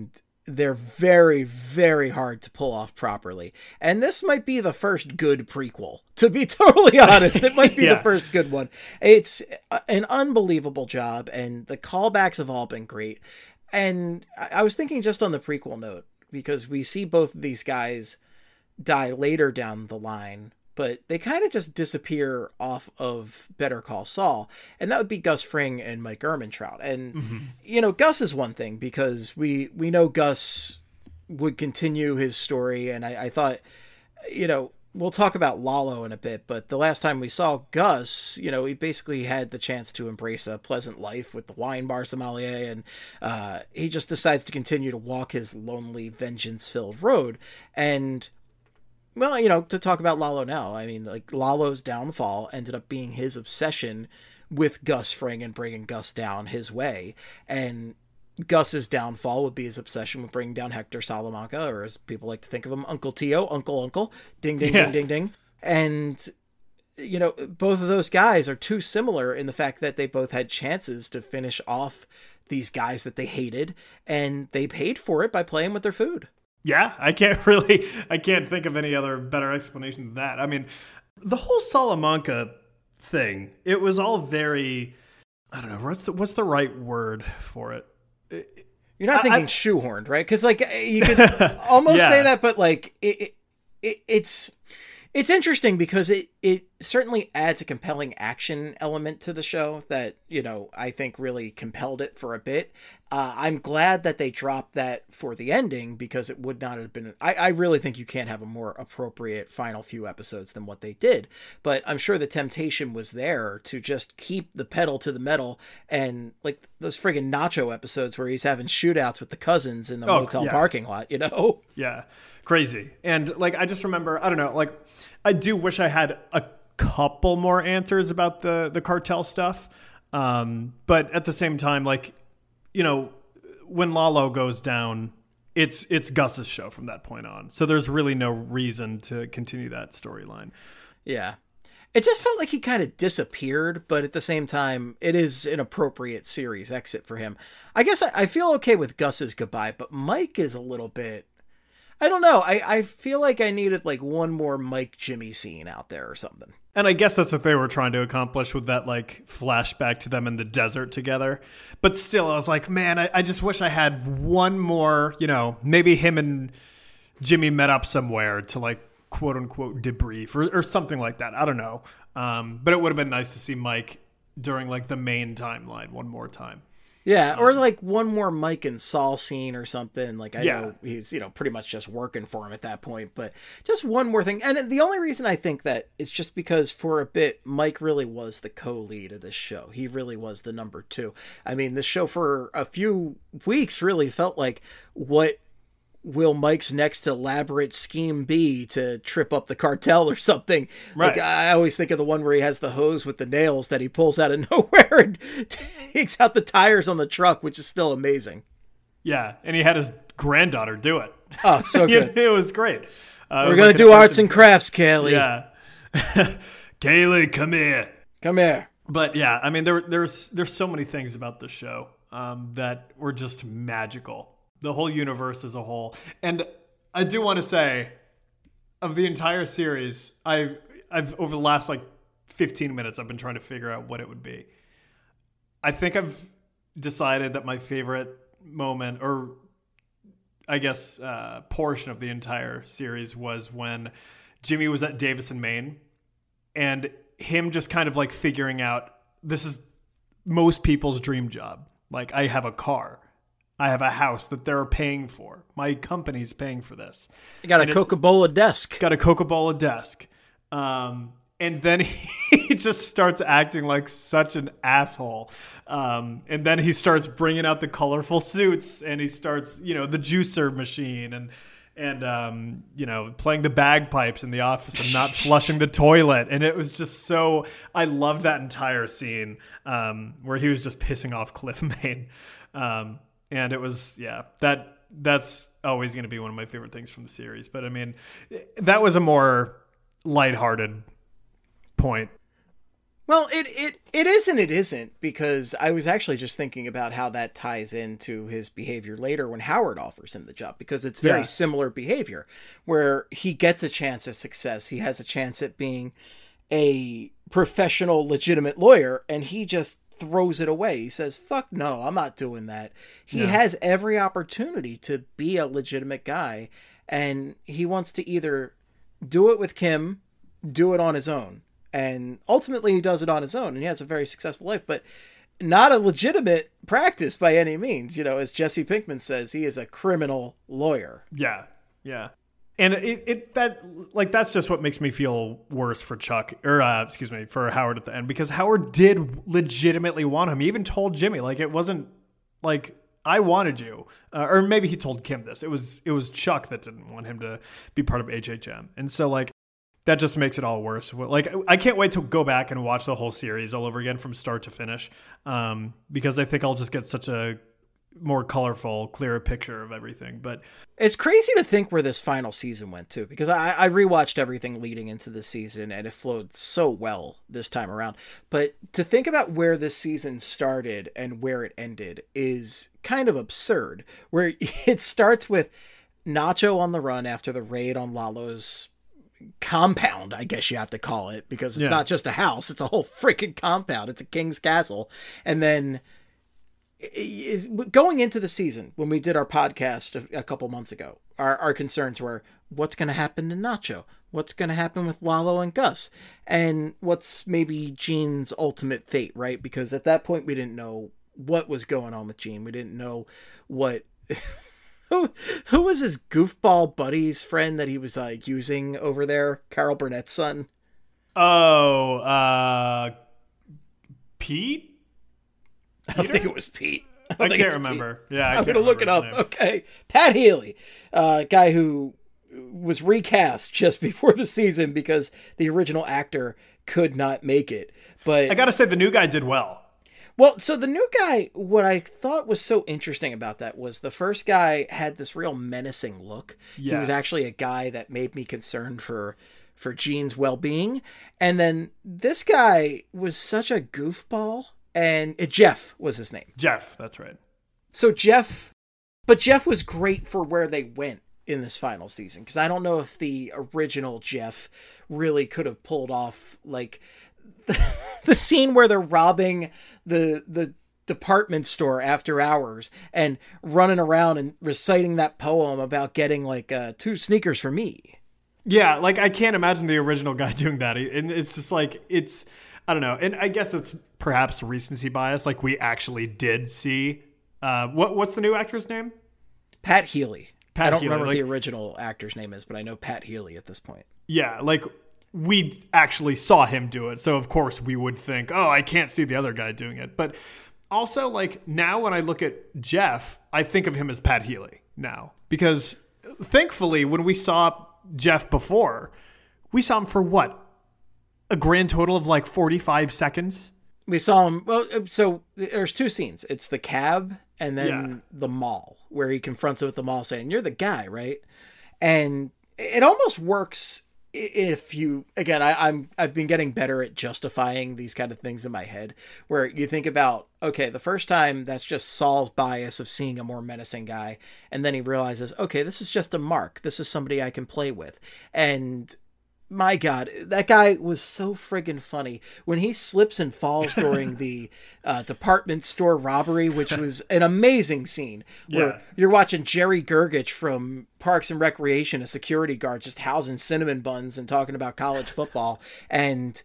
they're very, very hard to pull off properly. And this might be the first good prequel, to be totally honest. It might be yeah. the first good one. It's an unbelievable job, and the callbacks have all been great. And I was thinking just on the prequel note, because we see both of these guys die later down the line, but they kind of just disappear off of Better Call Saul. And that would be Gus Fring and Mike Ehrmantraut. And, mm-hmm. you know, Gus is one thing, because we, we know Gus would continue his story. And I, I thought, you know, we'll talk about Lalo in a bit, but the last time we saw Gus, you know, he basically had the chance to embrace a pleasant life with the wine bar sommelier. And uh, he just decides to continue to walk his lonely, vengeance-filled road. And, well, you know, to talk about Lalo now, I mean, like, Lalo's downfall ended up being his obsession with Gus Fring and bringing Gus down his way. And Gus's downfall would be his obsession with bringing down Hector Salamanca, or as people like to think of him, Uncle Tio, Uncle Uncle, ding, ding, yeah. ding, ding, ding. And, you know, both of those guys are too similar in the fact that they both had chances to finish off these guys that they hated, and they paid for it by playing with their food. Yeah, I can't really, I can't think of any other better explanation than that. I mean, the whole Salamanca thing, it was all very, I don't know, what's the, what's the right word for it? You're not thinking I, shoehorned, right? Because, like, you could almost yeah. say that, but, like, it, it, it's it's interesting because it, it certainly adds a compelling action element to the show that, you know, I think really compelled it for a bit. Uh, I'm glad that they dropped that for the ending, because it would not have been... I, I really think you can't have a more appropriate final few episodes than what they did. But I'm sure the temptation was there to just keep the pedal to the metal, and, like, those friggin' Nacho episodes where he's having shootouts with the cousins in the oh, motel yeah. parking lot, you know? Yeah. Crazy. And, like, I just remember, I don't know, like, I do wish I had a couple more answers about the, the cartel stuff. Um, but at the same time, like, you know, when Lalo goes down, it's it's Gus's show from that point on. So there's really no reason to continue that storyline. Yeah. It just felt like he kind of disappeared, but at the same time, it is an appropriate series exit for him. I guess I, I feel okay with Gus's goodbye, but Mike is a little bit... I don't know. I, I feel like I needed like one more Mike Jimmy scene out there or something. And I guess that's what they were trying to accomplish with that like flashback to them in the desert together. But still, I was like, man, I, I just wish I had one more, you know, maybe him and Jimmy met up somewhere to like quote unquote debrief or, or something like that. I don't know. Um, but it would have been nice to see Mike during like the main timeline one more time. Yeah, or like one more Mike and Saul scene or something. Like, I yeah. know he's, you know, pretty much just working for him at that point, but just one more thing. And the only reason I think that is just because for a bit, Mike really was the co-lead of this show. He really was the number two. I mean, this show for a few weeks really felt like, what will Mike's next elaborate scheme be to trip up the cartel or something? Right. Like, I always think of the one where he has the hose with the nails that he pulls out of nowhere and takes out the tires on the truck, which is still amazing. Yeah, and he had his granddaughter do it. Oh, so good. It was great. Uh, We're going like to do arts and crafts, Kaylee. Yeah. Kaylee, come here. Come here. But yeah, I mean, there, there's there's so many things about the show um, that were just magical. The whole universe as a whole. And I do want to say, of the entire series, I've, I've over the last like fifteen minutes, I've been trying to figure out what it would be. I think I've decided that my favorite moment, or I guess uh, portion of the entire series, was when Jimmy was at Davison, Maine, and him just kind of like figuring out, this is most people's dream job. Like, I have a car. I have a house that they're paying for. My company's paying for this. You got and a Coca-Cola desk. Got a Coca-Cola desk. Um, and then he just starts acting like such an asshole. Um, and then he starts bringing out the colorful suits, and he starts, you know, the juicer machine and, and um, you know, playing the bagpipes in the office and not flushing the toilet. And it was just so, I loved that entire scene um, where he was just pissing off Cliff Maine. Um, And it was, yeah, that that's always going to be one of my favorite things from the series. But, I mean, that was a more lighthearted point. Well, it, it, it is and it isn't, because I was actually just thinking about how that ties into his behavior later when Howard offers him the job, because it's very Yeah. similar behavior where he gets a chance at success. He has a chance at being a professional, legitimate lawyer, and he just throws it away. He says, fuck no, I'm not doing that. He Yeah. has every opportunity to be a legitimate guy, and he wants to either do it with Kim, do it on his own. And ultimately he does it on his own, and he has a very successful life, but not a legitimate practice by any means. You know, as Jesse Pinkman says, he is a criminal lawyer. Yeah, yeah. And it, it that like that's just what makes me feel worse for Chuck, or uh, excuse me, for Howard at the end, because Howard did legitimately want him. He even told Jimmy, like, it wasn't like, I wanted you, uh, or maybe he told Kim this. It was it was Chuck that didn't want him to be part of H H M, and so like that just makes it all worse. Like, I can't wait to go back and watch the whole series all over again from start to finish, um, because I think I'll just get such a more colorful, clearer picture of everything. But it's crazy to think where this final season went to, because I, I rewatched everything leading into the season, and it flowed so well this time around. But to think about where this season started and where it ended is kind of absurd, where it starts with Nacho on the run after the raid on Lalo's compound, I guess you have to call it, because it's Yeah. not just a house, it's a whole freaking compound. It's a king's castle. And then going into the season, when we did our podcast a, a couple months ago, our, our concerns were, what's going to happen to Nacho? What's going to happen with Lalo and Gus? And what's maybe Gene's ultimate fate, right? Because at that point, we didn't know what was going on with Gene. We didn't know what... Who, who was his goofball buddy's friend that he was uh, using over there? Carol Burnett's son? Oh, uh, Pete? I don't think it was Pete. I, don't I think can't it's remember. Pete. Yeah, I I'm can't going to look it remember up. his name. Okay. Pat Healy, uh, guy who was recast just before the season because the original actor could not make it. But I got to say, the new guy did well. Well, so the new guy, what I thought was so interesting about that was the first guy had this real menacing look. Yeah. He was actually a guy that made me concerned for for Gene's well-being. And then this guy was such a goofball, and uh, Jeff was his name. Jeff, that's right. So Jeff, but Jeff was great for where they went in this final season, because I don't know if the original Jeff really could have pulled off, like, the scene where they're robbing the the department store after hours and running around and reciting that poem about getting like uh, two sneakers for me. Yeah, like I can't imagine the original guy doing that. And it's just like, it's, I don't know. And I guess it's perhaps recency bias. Like we actually did see, uh, what what's the new actor's name? Pat Healy. Pat I don't Healy, remember what like, the original actor's name is, but I know Pat Healy at this point. Yeah, like we actually saw him do it. So of course we would think, oh, I can't see the other guy doing it. But also like now when I look at Jeff, I think of him as Pat Healy now, because thankfully when we saw Jeff before, we saw him for what? A grand total of like forty-five seconds. We saw him. Well, so there's two scenes. It's the cab and then Yeah. the mall, where he confronts him at the mall saying, "You're the guy, right?" And it almost works if you, again, I, I'm, I've been getting better at justifying these kind of things in my head, where you think about, okay, the first time that's just Saul's bias of seeing a more menacing guy. And then he realizes, okay, this is just a mark. This is somebody I can play with. And my God, that guy was so friggin' funny when he slips and falls during the uh, department store robbery, which was an amazing scene where Yeah. you're watching Jerry Gergich from Parks and Recreation, a security guard, just housing cinnamon buns and talking about college football. And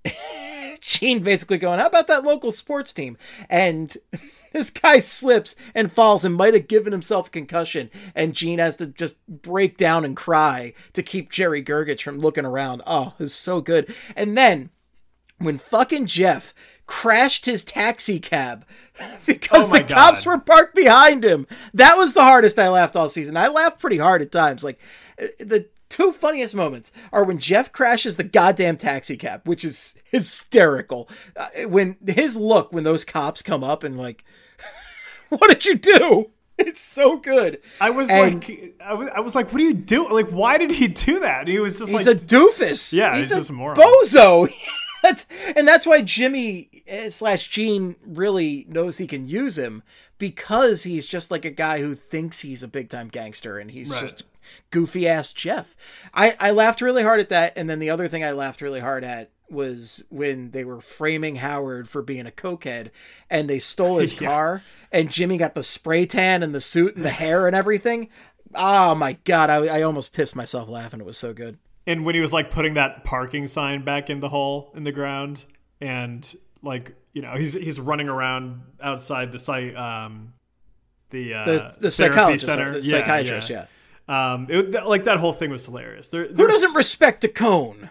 Gene basically going, how about that local sports team? And this guy slips and falls and might have given himself a concussion. And Gene has to just break down and cry to keep Jerry Gergich from looking around. Oh, it was so good. And then when fucking Jeff crashed his taxi cab because Oh my the cops God. were parked behind him, that was the hardest I laughed all season. I laughed pretty hard at times. Like uh, the two funniest moments are when Jeff crashes the goddamn taxi cab, which is hysterical. Uh, when his look, when those cops come up and like, what did you do? It's so good. I was And like, I was, I was like, what do you do? Like, why did he do that? And he was just he's like, a doofus. Yeah, he's, he's a just a moron. bozo. That's, and that's why Jimmy slash Gene really knows he can use him, because he's just like a guy who thinks he's a big time gangster, and he's right. just goofy ass Jeff. I, I laughed really hard at that. And then the other thing I laughed really hard at was when they were framing Howard for being a cokehead, and they stole his yeah. car, and Jimmy got the spray tan and the suit and the hair and everything. Oh my God. I, I almost pissed myself laughing. It was so good. And when he was like putting that parking sign back in the hole in the ground, and like, you know, he's he's running around outside the site, um, the uh, the, the therapy psychologist, center, the yeah, psychiatrist, yeah. yeah. Um, it, like that whole thing was hilarious. There, Who doesn't respect a cone?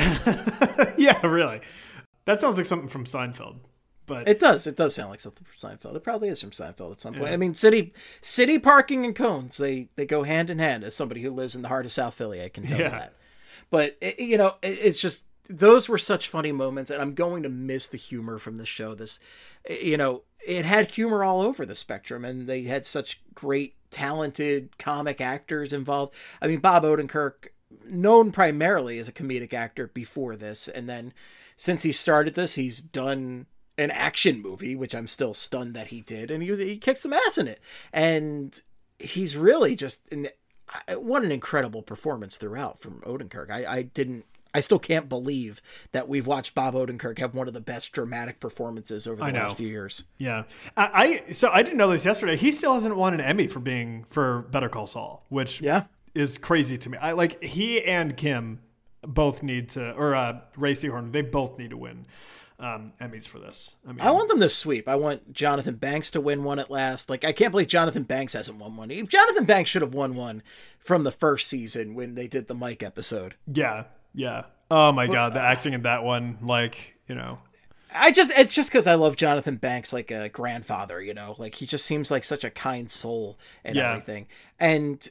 Yeah, really. That sounds like something from Seinfeld. But it does. It does sound like something from Seinfeld. It probably is from Seinfeld at some point. Yeah. I mean, city city parking and cones, they they go hand in hand. As somebody who lives in the heart of South Philly, I can tell yeah. you that. But, it, you know, it, it's just, those were such funny moments, and I'm going to miss the humor from this show. This, you know, it had humor all over the spectrum, and they had such great, talented comic actors involved. I mean, Bob Odenkirk, known primarily as a comedic actor before this, and then since he started this, he's done an action movie, which I'm still stunned that he did, and he was, he kicks some ass in it. And he's really just... an, what an incredible performance throughout from Odenkirk. I, I didn't, I still can't believe that we've watched Bob Odenkirk have one of the best dramatic performances over the last few years. Yeah. I, I, so I didn't know this yesterday. He still hasn't won an Emmy for being, for Better Call Saul, which yeah. is crazy to me. I like he and Kim both need to, or uh, Ray Seahorn, they both need to win um, Emmys for this. I mean, I want them to sweep. I want Jonathan Banks to win one at last. Like, I can't believe Jonathan Banks hasn't won one. Jonathan Banks should have won one from the first season when they did the Mike episode. Yeah, yeah. Oh my but, God, the uh, acting in that one, like, you know. I just, it's just because I love Jonathan Banks like a grandfather, you know, like he just seems like such a kind soul and yeah. everything. And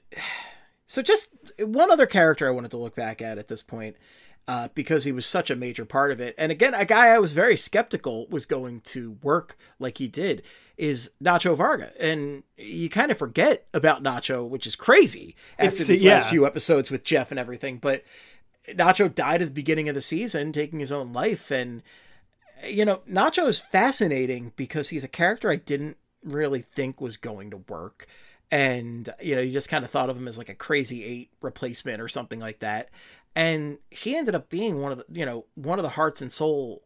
so just one other character I wanted to look back at at this point. Uh, because he was such a major part of it. And again, a guy I was very skeptical was going to work like he did is Nacho Varga. And you kind of forget about Nacho, which is crazy after it's, these yeah. last few episodes with Jeff and everything. But Nacho died at the beginning of the season, taking his own life. And, you know, Nacho is fascinating because he's a character I didn't really think was going to work. And, you know, you just kind of thought of him as like a crazy eight replacement or something like that. And he ended up being one of the, you know, one of the hearts and soul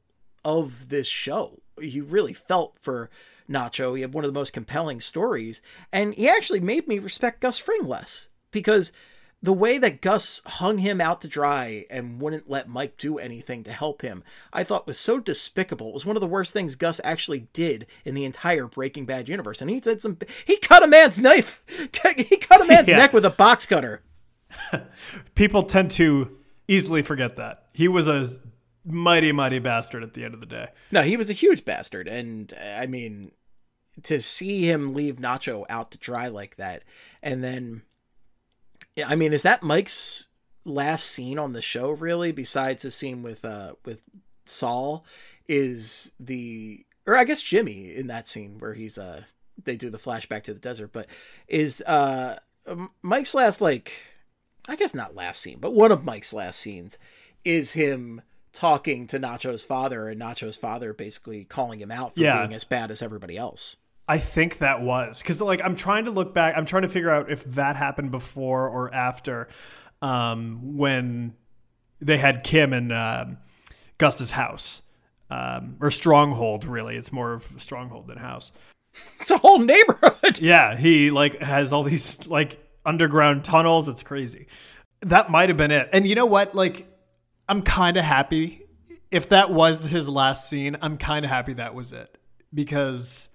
of this show. You really felt for Nacho. He had one of the most compelling stories. And he actually made me respect Gus Fring less. Because the way that Gus hung him out to dry and wouldn't let Mike do anything to help him, I thought was so despicable. It was one of the worst things Gus actually did in the entire Breaking Bad universe. And he did some, he cut a man's knife. He cut a man's yeah. neck with a box cutter. People tend to easily forget that. He was a mighty, mighty bastard at the end of the day. No, he was a huge bastard. And I mean, to see him leave Nacho out to dry like that. And then, I mean, is that Mike's last scene on the show, really? Besides the scene with, uh, with Saul, is the, or I guess Jimmy in that scene where he's, uh, they do the flashback to the desert, but is, uh, Mike's last, like, I guess not last scene, but one of Mike's last scenes is him talking to Nacho's father, and Nacho's father basically calling him out for yeah. being as bad as everybody else. I think that was because, like, I'm trying to look back. I'm trying to figure out if that happened before or after um, when they had Kim in um, Gus's house um, or Stronghold. Really, it's more of a Stronghold than house. It's a whole neighborhood. Yeah, he like has all these like underground tunnels. It's crazy. That might have been it. And you know what? Like, I'm kind of happy if that was his last scene. I'm kind of happy that was it because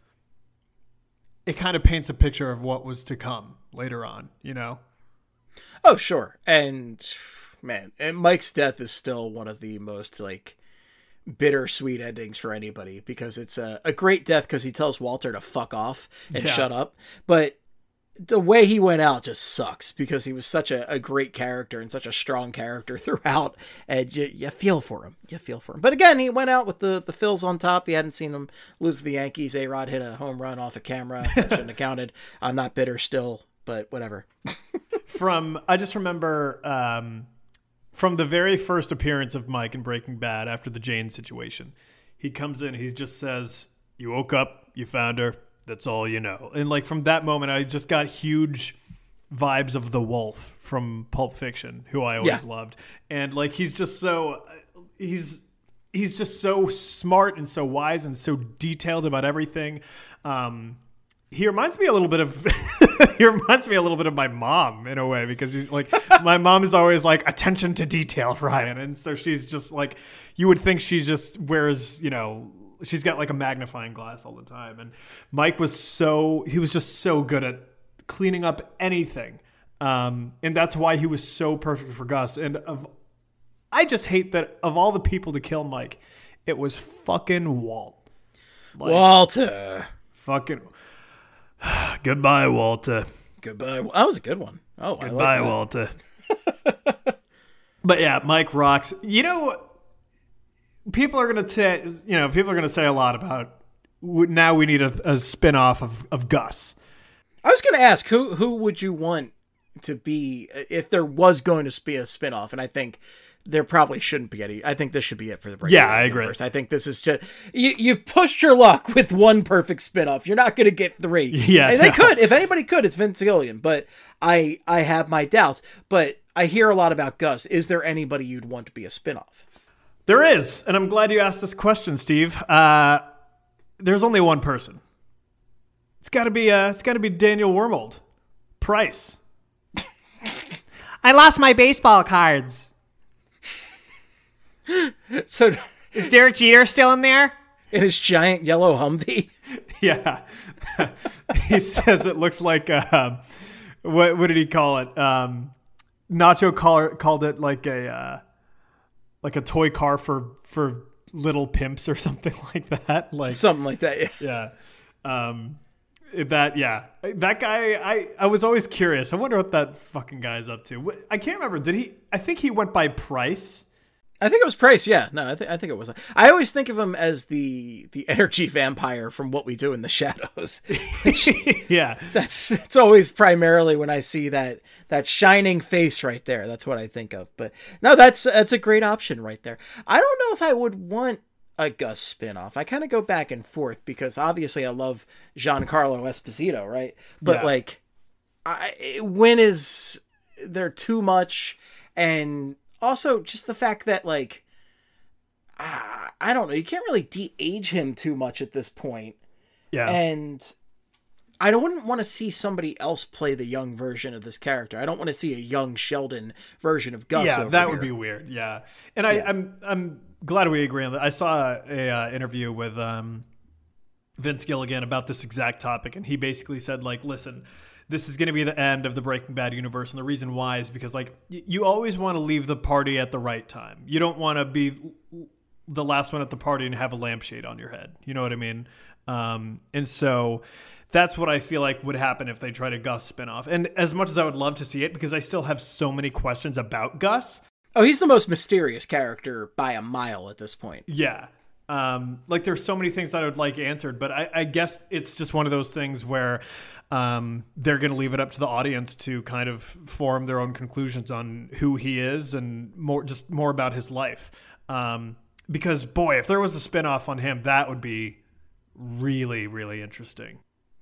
it kind of paints a picture of what was to come later on, you know? Oh, sure. And man, and Mike's death is still one of the most like bittersweet endings for anybody because it's a, a great death because he tells Walter to fuck off and yeah. shut up. But the way he went out just sucks because he was such a, a great character and such a strong character throughout. And you, you feel for him. You feel for him. But again, he went out with the, the Phils on top. You hadn't seen him lose to the Yankees. A-Rod hit a home run off a camera. That shouldn't have counted. I'm not bitter still, but whatever. From, I just remember um, from the very first appearance of Mike in Breaking Bad after the Jane situation, he comes in, he just says, "You woke up, you found her, that's all you know." And like from that moment, I just got huge vibes of the Wolf from Pulp Fiction, who I always yeah. loved. And like he's just so he's he's just so smart and so wise and so detailed about everything. Um, he reminds me a little bit of he reminds me a little bit of my mom in a way, because he's like my mom is always like, attention to detail, Ryan, and so she's just like, you would think she just wears, you know, she's got like a magnifying glass all the time. And Mike was so he was just so good at cleaning up anything, um, and that's why he was so perfect for Gus. And of I just hate that of all the people to kill Mike, it was fucking Walt. Like, Walter. Fucking goodbye, Walter. Goodbye. That was a good one. Oh, goodbye, I like Walter. But yeah, Mike rocks. You know, people are gonna say, you know, people are gonna say a lot about now we need a, a spin-off of, of Gus. I was going to ask, who who would you want to be if there was going to be a spinoff? And I think there probably shouldn't be any. I think this should be it for the Breaking Yeah, Bad I agree. universe. I think this is just you. You pushed your luck with one perfect spinoff. You're not going to get three. Yeah, and they could. If anybody could, it's Vince Gilligan. But I I have my doubts. But I hear a lot about Gus. Is there anybody you'd want to be a spinoff? There is, and I'm glad you asked this question, Steve. Uh, there's only one person. It's got to be uh, it's got to be Daniel Wormold. Price. I lost my baseball cards. So is Derek Jeter still in there? In his giant yellow Humvee? Yeah. He says it looks like uh, what what did he call it? Um, Nacho call, called it like a uh, like a toy car for for little pimps or something like that. Like something like that. Yeah. Yeah. Um, That yeah, that guy. I, I was always curious. I wonder what that fucking guy's up to. I can't remember. Did he? I think he went by Price. I think it was Price. Yeah, no, I think I think it was. I always think of him as the the energy vampire from What We Do in the Shadows. Yeah, that's it's always primarily when I see that that shining face right there. That's what I think of. But no, that's that's a great option right there. I don't know if I would want a Gus spinoff. I kind of go back and forth because obviously I love Giancarlo Esposito, right? But yeah. like, I, when is there too much? And also just the fact that like, uh, I don't know, you can't really de-age him too much at this point. Yeah. And I don't wouldn't want to see somebody else play the young version of this character. I don't want to see a young Sheldon version of Gus. Yeah, over that here. would be weird. Yeah. And I, yeah. I'm, I'm, glad we agree on that. I saw a uh, interview with um, Vince Gilligan about this exact topic, and he basically said, like, listen, this is going to be the end of the Breaking Bad universe, and the reason why is because, like, y- you always want to leave the party at the right time. You don't want to be the last one at the party and have a lampshade on your head. You know what I mean? Um, and so that's what I feel like would happen if they try to Gus spinoff. And as much as I would love to see it, because I still have so many questions about Gus. Oh, he's the most mysterious character by a mile at this point. Yeah. Um, like there's so many things that I would like answered, but I, I guess it's just one of those things where um, they're going to leave it up to the audience to kind of form their own conclusions on who he is and more, just more about his life. Um, because boy, if there was a spinoff on him, that would be really, really interesting.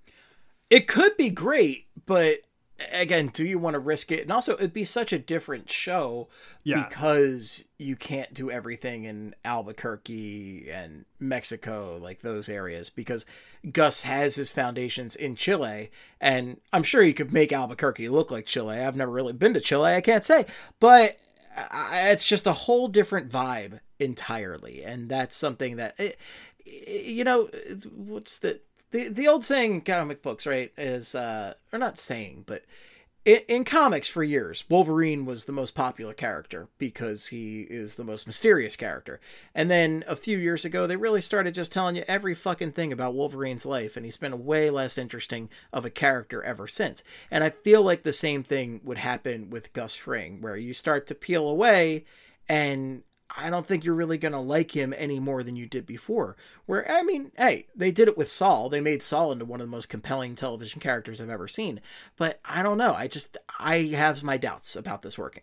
It could be great, but again, do you want to risk it? And also, it'd be such a different show yeah. because you can't do everything in Albuquerque and Mexico, like those areas, because Gus has his foundations in Chile, and I'm sure you could make Albuquerque look like Chile. I've never really been to Chile, I can't say, but it's just a whole different vibe entirely, and that's something that, it, you know, what's the... The the old saying in comic books, right, is, uh, or not saying, but in, in comics for years, Wolverine was the most popular character because he is the most mysterious character. And then a few years ago, they really started just telling you every fucking thing about Wolverine's life, and he's been way less interesting of a character ever since. And I feel like the same thing would happen with Gus Fring, where you start to peel away and I don't think you're really going to like him any more than you did before. Where, I mean, hey, they did it with Saul. They made Saul into one of the most compelling television characters I've ever seen. But I don't know. I just, I have my doubts about this working.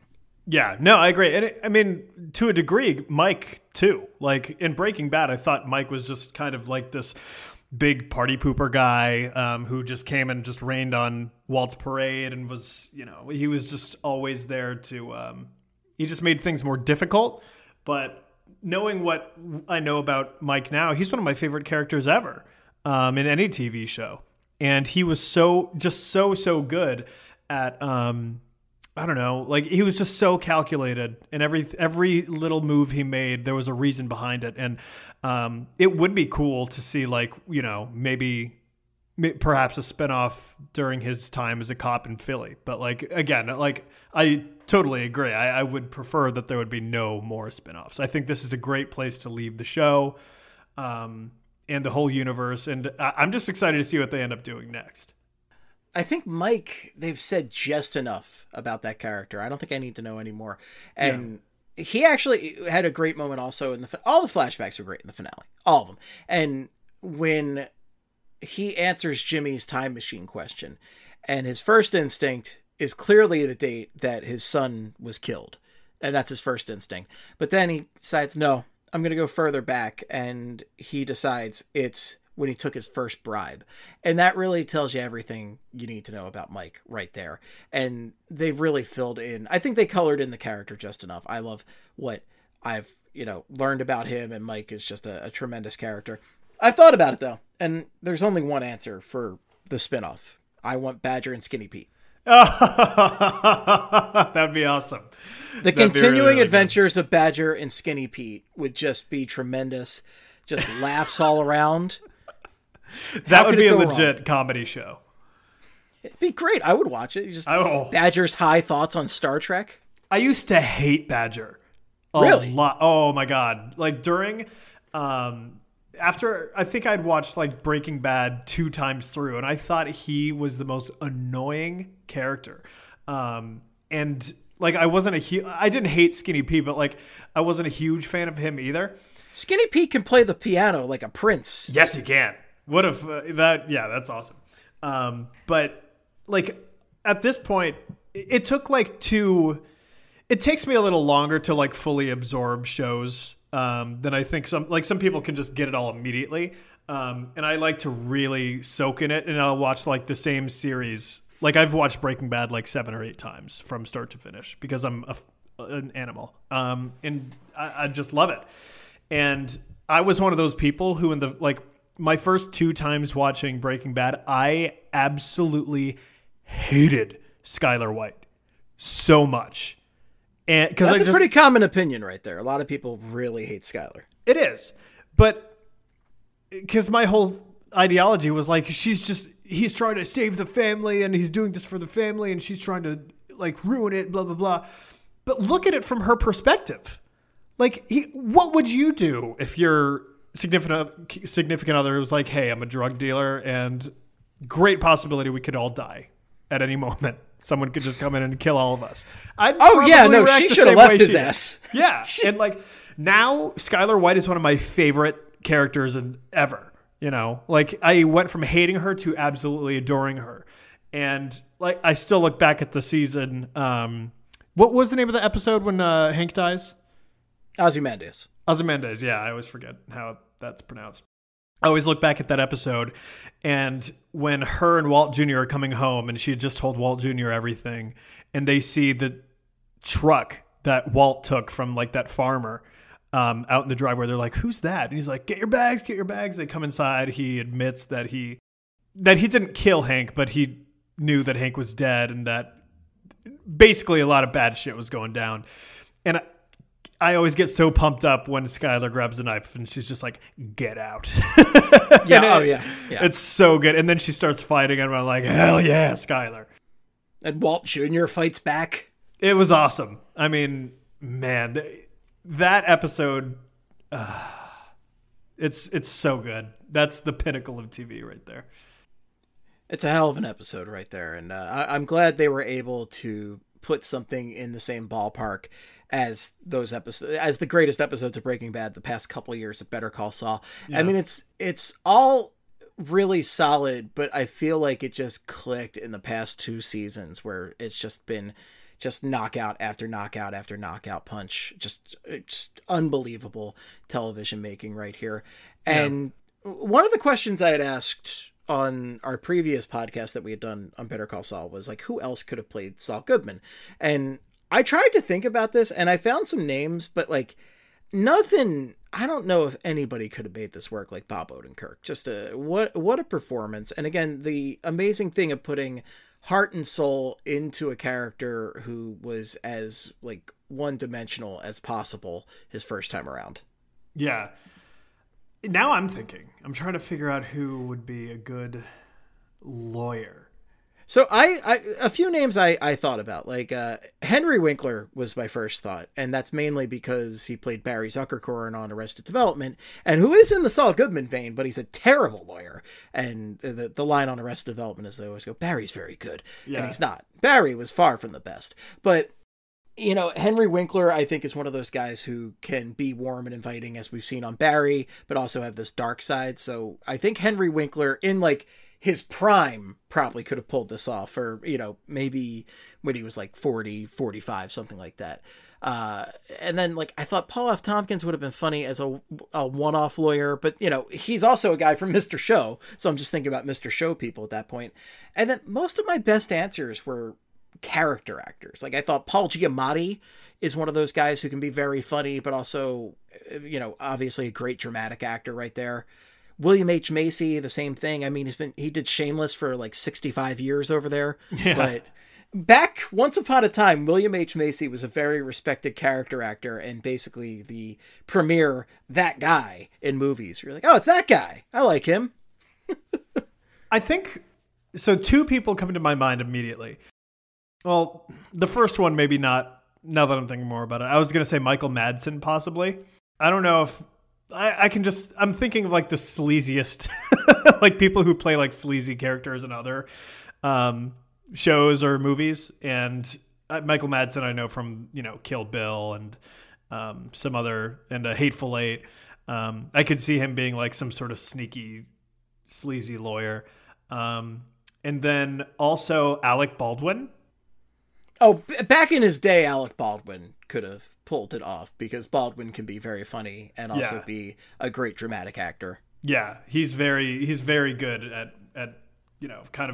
Yeah, no, I agree. And it, I mean, to a degree, Mike too. Like in Breaking Bad, I thought Mike was just kind of like this big party pooper guy um, who just came and just rained on Walt's parade and was, you know, he was just always there to, um, he just made things more difficult. But knowing what I know about Mike now, he's one of my favorite characters ever um, in any T V show. And he was so, just so, so good at, um, I don't know, like he was just so calculated, and every every little move he made, there was a reason behind it. And um, it would be cool to see, like, you know, maybe perhaps a spinoff during his time as a cop in Philly. But like, again, like I totally agree. I, I would prefer that there would be no more spinoffs. I think this is a great place to leave the show um, and the whole universe. And I, I'm just excited to see what they end up doing next. I think Mike, they've said just enough about that character. I don't think I need to know anymore. And yeah. he actually had a great moment also in the, all the flashbacks were great in the finale, all of them. And when he answers Jimmy's time machine question, and his first instinct is clearly the date that his son was killed. And that's his first instinct. But then he decides, no, I'm going to go further back. And he decides it's when he took his first bribe. And that really tells you everything you need to know about Mike right there. And they've really filled in, I think they colored in the character just enough. I love what I've, you know, learned about him, and Mike is just a, a tremendous character. I've thought about it though, and there's only one answer for the spinoff. I want Badger and Skinny Pete. That'd be awesome. The That'd continuing really, really adventures good. of Badger and Skinny Pete would just be tremendous. Just laughs all around. That would be a legit wrong? comedy show. It'd be great. I would watch it. You just oh. Badger's high thoughts on Star Trek. I used to hate Badger. A really? Lot. Oh my God. Like during, um, after I think I'd watched like Breaking Bad two times through, and I thought he was the most annoying character. Um, and like I wasn't a hu- I didn't hate Skinny Pete, but like I wasn't a huge fan of him either. Skinny Pete can play the piano like a prince. Yes, he can. What if uh, that? Yeah, that's awesome. Um, but like at this point, it, it took like two. It takes me a little longer to like fully absorb shows um, than I think some. Like some people can just get it all immediately, um, and I like to really soak in it. And I'll watch like the same series. Like I've watched Breaking Bad like seven or eight times from start to finish because I'm a, an animal, um, and I, I just love it. And I was one of those people who in the like. My first two times watching Breaking Bad, I absolutely hated Skyler White so much. And because That's I a just, pretty common opinion right there. A lot of people really hate Skyler. It is. But because my whole ideology was like, she's just, he's trying to save the family and he's doing this for the family and she's trying to like ruin it, blah, blah, blah. But look at it from her perspective. Like, he, what would you do if you're significant significant other was like, hey, I'm a drug dealer and great possibility we could all die at any moment. Someone could just come in and kill all of us. I'd oh yeah, no, she should have left his ass. Yeah. And like now Skyler White is one of my favorite characters in ever, you know, like I went from hating her to absolutely adoring her. And like, I still look back at the season. Um, what was the name of the episode when uh, Hank dies? Ozymandias. Ozymandias, yeah, I always forget how that's pronounced. I always look back at that episode, and when her and Walt Junior are coming home, and she had just told Walt Junior everything, and they see the truck that Walt took from like that farmer um, out in the driveway, they're like, "Who's that?" And he's like, "Get your bags, get your bags." They come inside. He admits that he that he didn't kill Hank, but he knew that Hank was dead, and that basically a lot of bad shit was going down, and. I, I always get so pumped up when Skyler grabs a knife and she's just like, get out. yeah, it, oh yeah, yeah. It's so good. And then she starts fighting and I'm like, hell yeah, Skyler. And Walt Junior fights back. It was awesome. I mean, man, th- that episode, uh, it's it's so good. That's the pinnacle of T V right there. It's a hell of an episode right there. And uh, I- I'm glad they were able to put something in the same ballpark as those episodes, as the greatest episodes of Breaking Bad the past couple of years of Better Call Saul. Yeah. I mean, it's it's all really solid, but I feel like it just clicked in the past two seasons where it's just been just knockout after knockout after knockout punch. Just, just unbelievable television making right here. And yeah. one of the questions I had asked on our previous podcast that we had done on Better Call Saul was like, who else could have played Saul Goodman? And I tried to think about this and I found some names, but like nothing, I don't know if anybody could have made this work like Bob Odenkirk. Just a, what, what a performance. And again, the amazing thing of putting heart and soul into a character who was as like one dimensional as possible his first time around. Yeah. Now I'm thinking, I'm trying to figure out who would be a good lawyer. So I, I a few names I, I thought about, like uh, Henry Winkler was my first thought, and that's mainly because he played Barry Zuckerkorn on Arrested Development, and who is in the Saul Goodman vein, but he's a terrible lawyer. And the the line on Arrested Development is they always go, Barry's very good, yeah. And he's not. Barry was far from the best, but you know, Henry Winkler, I think, is one of those guys who can be warm and inviting, as we've seen on Barry, but also have this dark side. So I think Henry Winkler, in like his prime, probably could have pulled this off, or, you know, maybe when he was like forty, forty-five, something like that. Uh, and then, like, I thought Paul F. Tompkins would have been funny as a, a one-off lawyer, but, you know, he's also a guy from Mister Show. So I'm just thinking about Mister Show people at that point. And then most of my best answers were character actors. Like, I thought Paul Giamatti is one of those guys who can be very funny, but also, you know, obviously a great dramatic actor right there. William H. Macy, the same thing. I mean, he's been, he did Shameless for like sixty-five years over there, yeah. But back once upon a time, William H. Macy was a very respected character actor and basically the premier that guy in movies. You're like, oh, it's that guy. I like him. I think so. Two people come to my mind immediately. Well, the first one, maybe not, now that I'm thinking more about it. I was going to say Michael Madsen, possibly. I don't know if I, I can just, I'm thinking of like the sleaziest, like people who play like sleazy characters in other um, shows or movies. And uh, Michael Madsen, I know from, you know, Kill Bill and um, some other, and a Hateful Eight. Um, I could see him being like some sort of sneaky, sleazy lawyer. Um, and then also Alec Baldwin. Oh, b- back in his day, Alec Baldwin could have pulled it off because Baldwin can be very funny and also yeah. be a great dramatic actor. Yeah, he's very he's very good at at you know kind of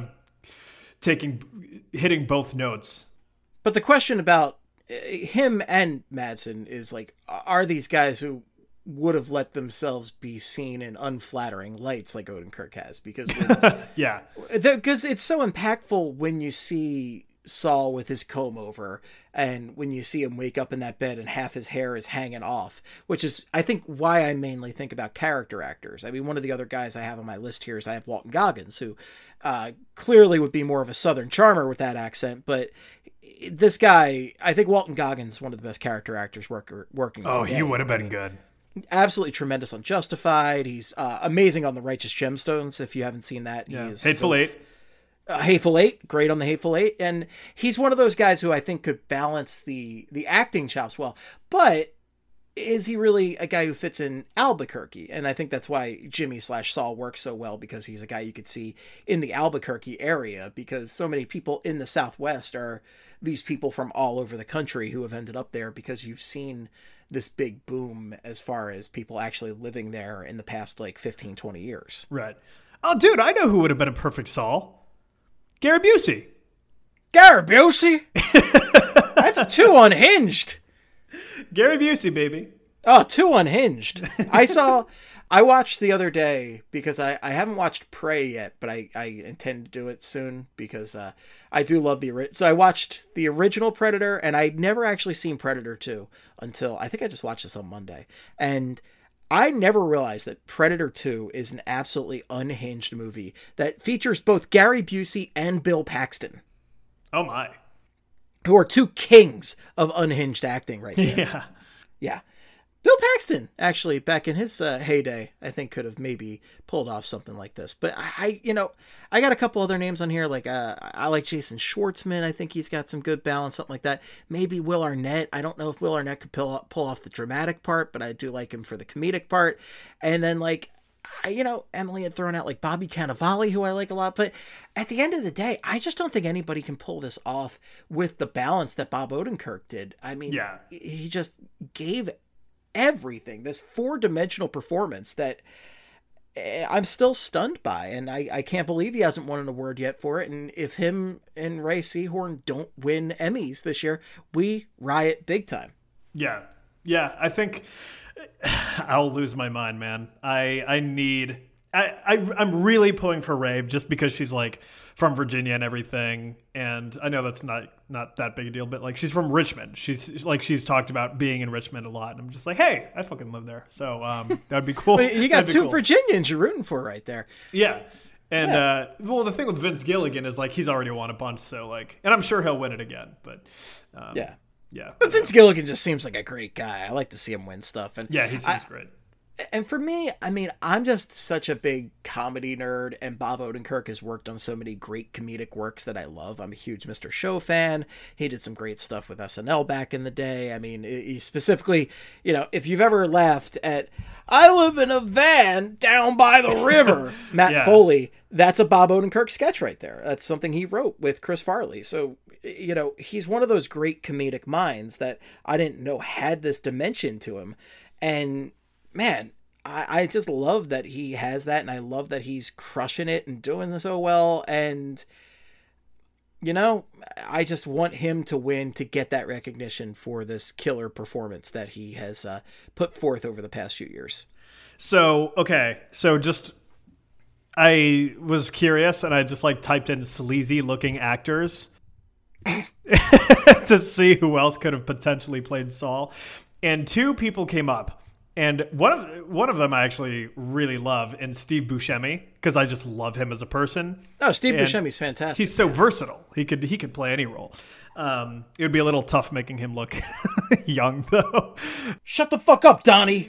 taking hitting both notes. But the question about him and Madsen is like, are these guys who would have let themselves be seen in unflattering lights like Odenkirk has? Because yeah, because it's so impactful when you see Saul with his comb over and when you see him wake up in that bed and half his hair is hanging off, which is, I think, why I mainly think about character actors. I mean, one of the other guys I have on my list here is I have Walton Goggins, who uh, clearly would be more of a Southern charmer with that accent, but this guy, I think Walton Goggins is one of the best character actors work, working. Oh, today. He would have been good. Absolutely tremendous on Justified. He's uh, amazing on The Righteous Gemstones. If you haven't seen that, yeah. he is Hateful so Eight. Uh, Hateful Eight, great on the Hateful Eight, and he's one of those guys who I think could balance the the acting chops well. But is he really a guy who fits in Albuquerque? And I think that's why Jimmy slash Saul works so well, because he's a guy you could see in the Albuquerque area, because so many people in the Southwest are these people from all over the country who have ended up there because you've seen this big boom as far as people actually living there in the past like fifteen, twenty years. Right. Oh, dude, I know who would have been a perfect Saul. Gary Busey. Gary Busey? That's too unhinged. Gary Busey, baby. Oh, too unhinged. I saw, I watched the other day because I, I haven't watched Prey yet, but I, I intend to do it soon because uh, I do love the, so I watched the original Predator and I'd never actually seen Predator two until, I think I just watched this on Monday. And I never realized that Predator two is an absolutely unhinged movie that features both Gary Busey and Bill Paxton. Oh my. Who are two kings of unhinged acting right there. Yeah. Yeah. Bill Paxton, actually, back in his uh, heyday, I think could have maybe pulled off something like this. But I, I, you know, I got a couple other names on here. Like, uh, I like Jason Schwartzman. I think he's got some good balance, something like that. Maybe Will Arnett. I don't know if Will Arnett could pull, pull off the dramatic part, but I do like him for the comedic part. And then, like, I, you know, Emily had thrown out like Bobby Cannavale, who I like a lot, but at the end of the day, I just don't think anybody can pull this off with the balance that Bob Odenkirk did. I mean, yeah. he just gave everything, this four-dimensional performance that I'm still stunned by, and I, I can't believe he hasn't won an award yet for it. And if him and Ray Seahorn don't win Emmys this year, we riot big time. Yeah. Yeah. I think I'll lose my mind, man. I, I need, I, I, I'm really pulling for Ray just because she's like from Virginia and everything. And I know that's not, not that big a deal, but like she's from Richmond. She's like, she's talked about being in Richmond a lot. And I'm just like, hey, I fucking live there. So um, that'd be cool. Well, you got That'd two cool. Virginians you're rooting for right there. Yeah. And, yeah. uh, well, the thing with Vince Gilligan is like, he's already won a bunch. So like, and I'm sure he'll win it again, but um, yeah. Yeah. But Vince Gilligan just seems like a great guy. I like to see him win stuff. And yeah, he seems I, great. And for me, I mean, I'm just such a big comedy nerd, and Bob Odenkirk has worked on so many great comedic works that I love. I'm a huge Mister Show fan. He did some great stuff with S N L back in the day. I mean, he specifically, you know, if you've ever laughed at, I live in a van down by the river, Matt yeah. Foley, that's a Bob Odenkirk sketch right there. That's something he wrote with Chris Farley. So, you know, he's one of those great comedic minds that I didn't know had this dimension to him. And man, I, I just love that he has that, and I love that he's crushing it and doing so well. And, you know, I just want him to win to get that recognition for this killer performance that he has uh, put forth over the past few years. So, okay. So just, I was curious, and I just like typed in sleazy looking actors to see who else could have potentially played Saul. And two people came up. And one of one of them I actually really love, and Steve Buscemi, because I just love him as a person. Oh, Steve and Buscemi's fantastic. He's so versatile. He could he could play any role. Um, it would be a little tough making him look young, though. Shut the fuck up, Donnie.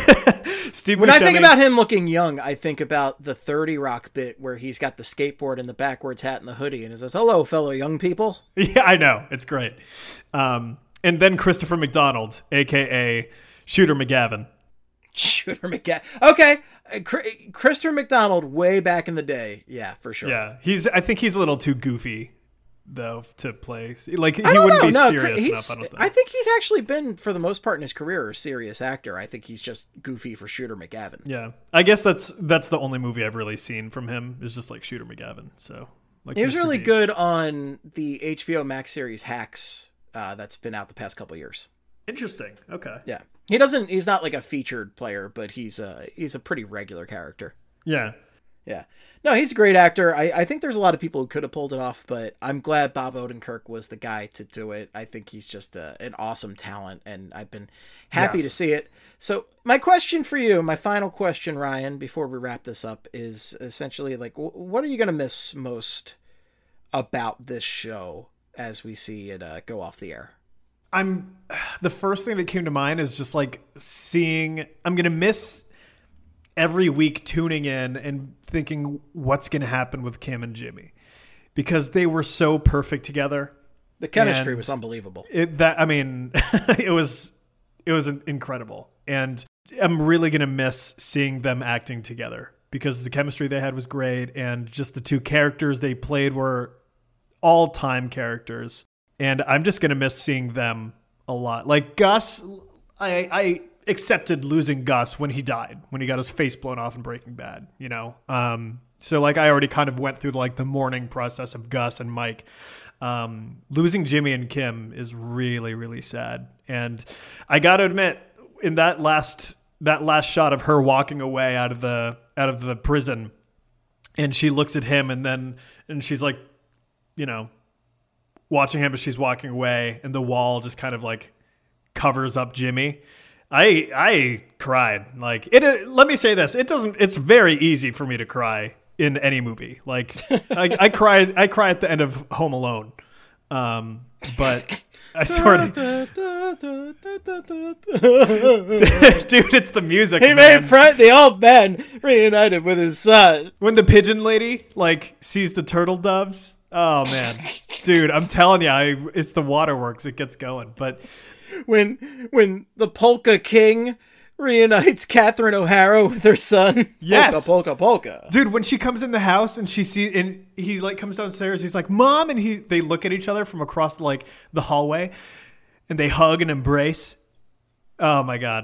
Steve when Buscemi, I think about him looking young, I think about the thirty Rock bit where he's got the skateboard and the backwards hat and the hoodie, and he says, "Hello, fellow young people." Yeah, I know. It's great. Um, and then Christopher McDonald, a k a. Shooter McGavin. Shooter McGavin. Okay. Uh, Christopher McDonald way back in the day. Yeah, for sure. Yeah. he's. I think he's a little too goofy, though, to play. Like, he I don't wouldn't know. be no, serious he's, enough, I don't think. I think he's actually been, for the most part in his career, a serious actor. I think he's just goofy for Shooter McGavin. Yeah. I guess that's that's the only movie I've really seen from him is just like Shooter McGavin. So, like, he was Mister really Deeds. good on the H B O Max series Hacks uh, that's been out the past couple of years. Interesting. Okay. Yeah. He doesn't, he's not like a featured player, but he's a, he's a pretty regular character. Yeah. Yeah. No, he's a great actor. I, I think there's a lot of people who could have pulled it off, but I'm glad Bob Odenkirk was the guy to do it. I think he's just a, an awesome talent, and I've been happy Yes. to see it. So my question for you, my final question, Ryan, before we wrap this up, is essentially like, w- what are you going to miss most about this show as we see it uh, go off the air? I'm the first thing that came to mind is just like seeing, I'm going to miss every week tuning in and thinking what's going to happen with Kim and Jimmy, because they were so perfect together. The chemistry And was unbelievable. It, that, I mean, it was, it was incredible. And I'm really going to miss seeing them acting together because the chemistry they had was great. And just the two characters they played were all time characters. And I'm just going to miss seeing them a lot. Like Gus, I, I accepted losing Gus when he died, when he got his face blown off in Breaking Bad, you know? Um, so like I already kind of went through like the mourning process of Gus and Mike. Um, losing Jimmy and Kim is really, really sad. And I got to admit, in that last, that last shot of her walking away out of the, out of the prison, and she looks at him and then, and she's like, you know, watching him as she's walking away, and the wall just kind of like covers up Jimmy. I I cried. Like it. Let me say this: it doesn't. It's very easy for me to cry in any movie. Like I, I cry. I cry at the end of Home Alone. Um, but I sort of, dude, it's the music. He man. made friend the old man reunited with his son. When the pigeon lady like sees the turtle doves. Oh man, dude, I'm telling you, I, it's the waterworks. It gets going. But when when the polka king reunites Catherine O'Hara with her son. Yes. Polka, polka, polka. Dude, when she comes in the house and she sees, and he like comes downstairs, he's like, Mom, and he they look at each other from across like the hallway, and they hug and embrace. Oh my God.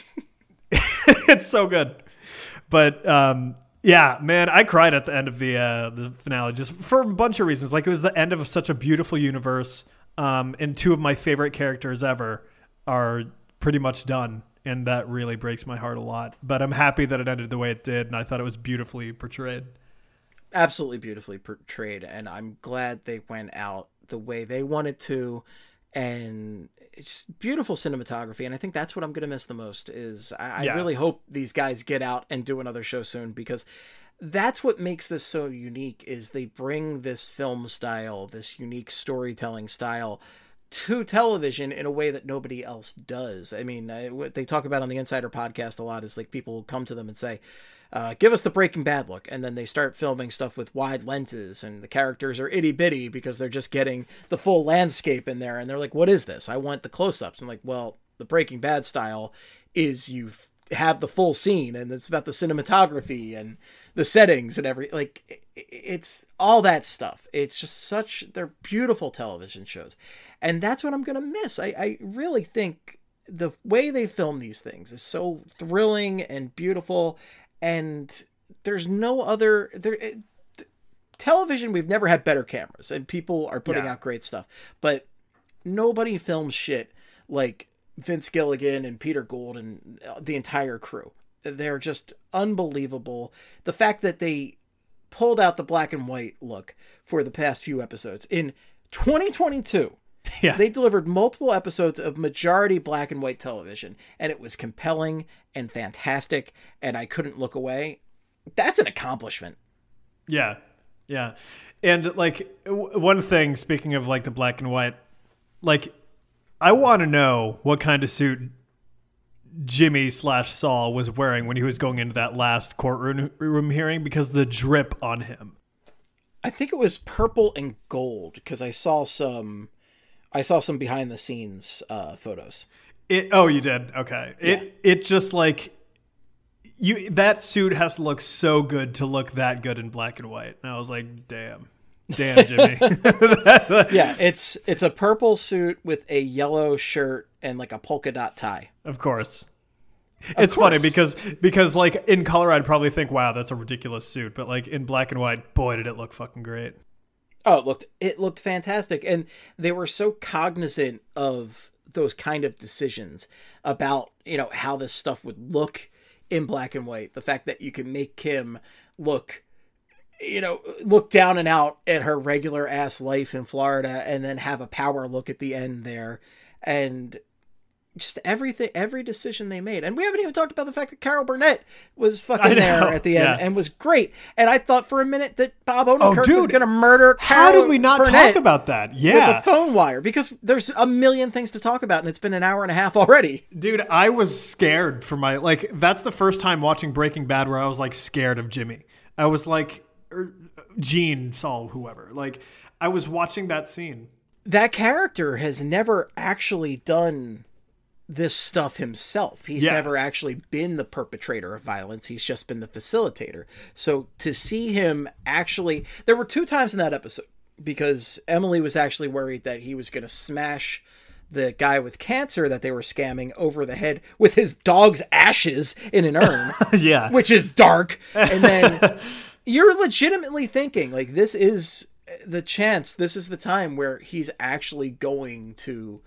It's so good. But um, yeah, man, I cried at the end of the uh, the finale just for a bunch of reasons. Like, it was the end of such a beautiful universe, um, and two of my favorite characters ever are pretty much done, and that really breaks my heart a lot. But I'm happy that it ended the way it did, and I thought it was beautifully portrayed. Absolutely beautifully portrayed, and I'm glad they went out the way they wanted to, and it's beautiful cinematography. And I think that's what I'm going to miss the most is I, yeah. I really hope these guys get out and do another show soon, because that's what makes this so unique is they bring this film style, this unique storytelling style to television in a way that nobody else does. I mean, I, what they talk about on the Insider podcast a lot is like people will come to them and say, Uh, give us the Breaking Bad look. And then they start filming stuff with wide lenses and the characters are itty bitty because they're just getting the full landscape in there. And they're like, what is this? I want the close-ups. I'm like, well, the Breaking Bad style is you have the full scene and it's about the cinematography and the settings and every, like it's all that stuff. It's just such, they're beautiful television shows. And that's what I'm going to miss. I, I really think the way they film these things is so thrilling and beautiful. And there's no other there it, television. We've never had better cameras and people are putting yeah. out great stuff, but nobody films shit like Vince Gilligan and Peter Gould and the entire crew. They're just unbelievable. The fact that they pulled out the black and white look for the past few episodes in twenty twenty-two. Yeah. They delivered multiple episodes of majority black and white television, and it was compelling and fantastic, and I couldn't look away. That's an accomplishment. Yeah. Yeah. And like w- one thing, speaking of like the black and white, like I want to know what kind of suit Jimmy slash Saul was wearing when he was going into that last courtroom room hearing, because the drip on him. I think it was purple and gold, because I saw some... I saw some behind the scenes uh, photos. It oh, you did? Okay. Yeah. It it just like you that suit has to look so good to look that good in black and white. And I was like, damn. Damn, Jimmy. Yeah, it's it's a purple suit with a yellow shirt and like a polka dot tie. Of course. Of it's course. funny because because like in color I'd probably think, wow, that's a ridiculous suit, but like in black and white, boy, did it look fucking great. Oh, it looked it looked fantastic, and they were so cognizant of those kind of decisions about, you know, how this stuff would look in black and white. The fact that you can make Kim look, you know, look down and out at her regular ass life in Florida, and then have a power look at the end there, and just everything, every decision they made. And we haven't even talked about the fact that Carol Burnett was fucking there at the end yeah. and was great. And I thought for a minute that Bob Odenkirk oh, dude, was going to murder Carol How did we not Burnett talk about that? Yeah. With a phone wire, because there's a million things to talk about and it's been an hour and a half already. Dude, I was scared for my, like, that's the first time watching Breaking Bad where I was like scared of Jimmy. I was like, or Gene, Saul, whoever. Like, I was watching that scene. That character has never actually done this stuff himself. He's yeah. never actually been the perpetrator of violence. He's just been the facilitator. So to see him actually, there were two times in that episode because Emily was actually worried that he was going to smash the guy with cancer that they were scamming over the head with his dog's ashes in an urn. Yeah. Which is dark. And then you're legitimately thinking like, this is the chance. This is the time where he's actually going to,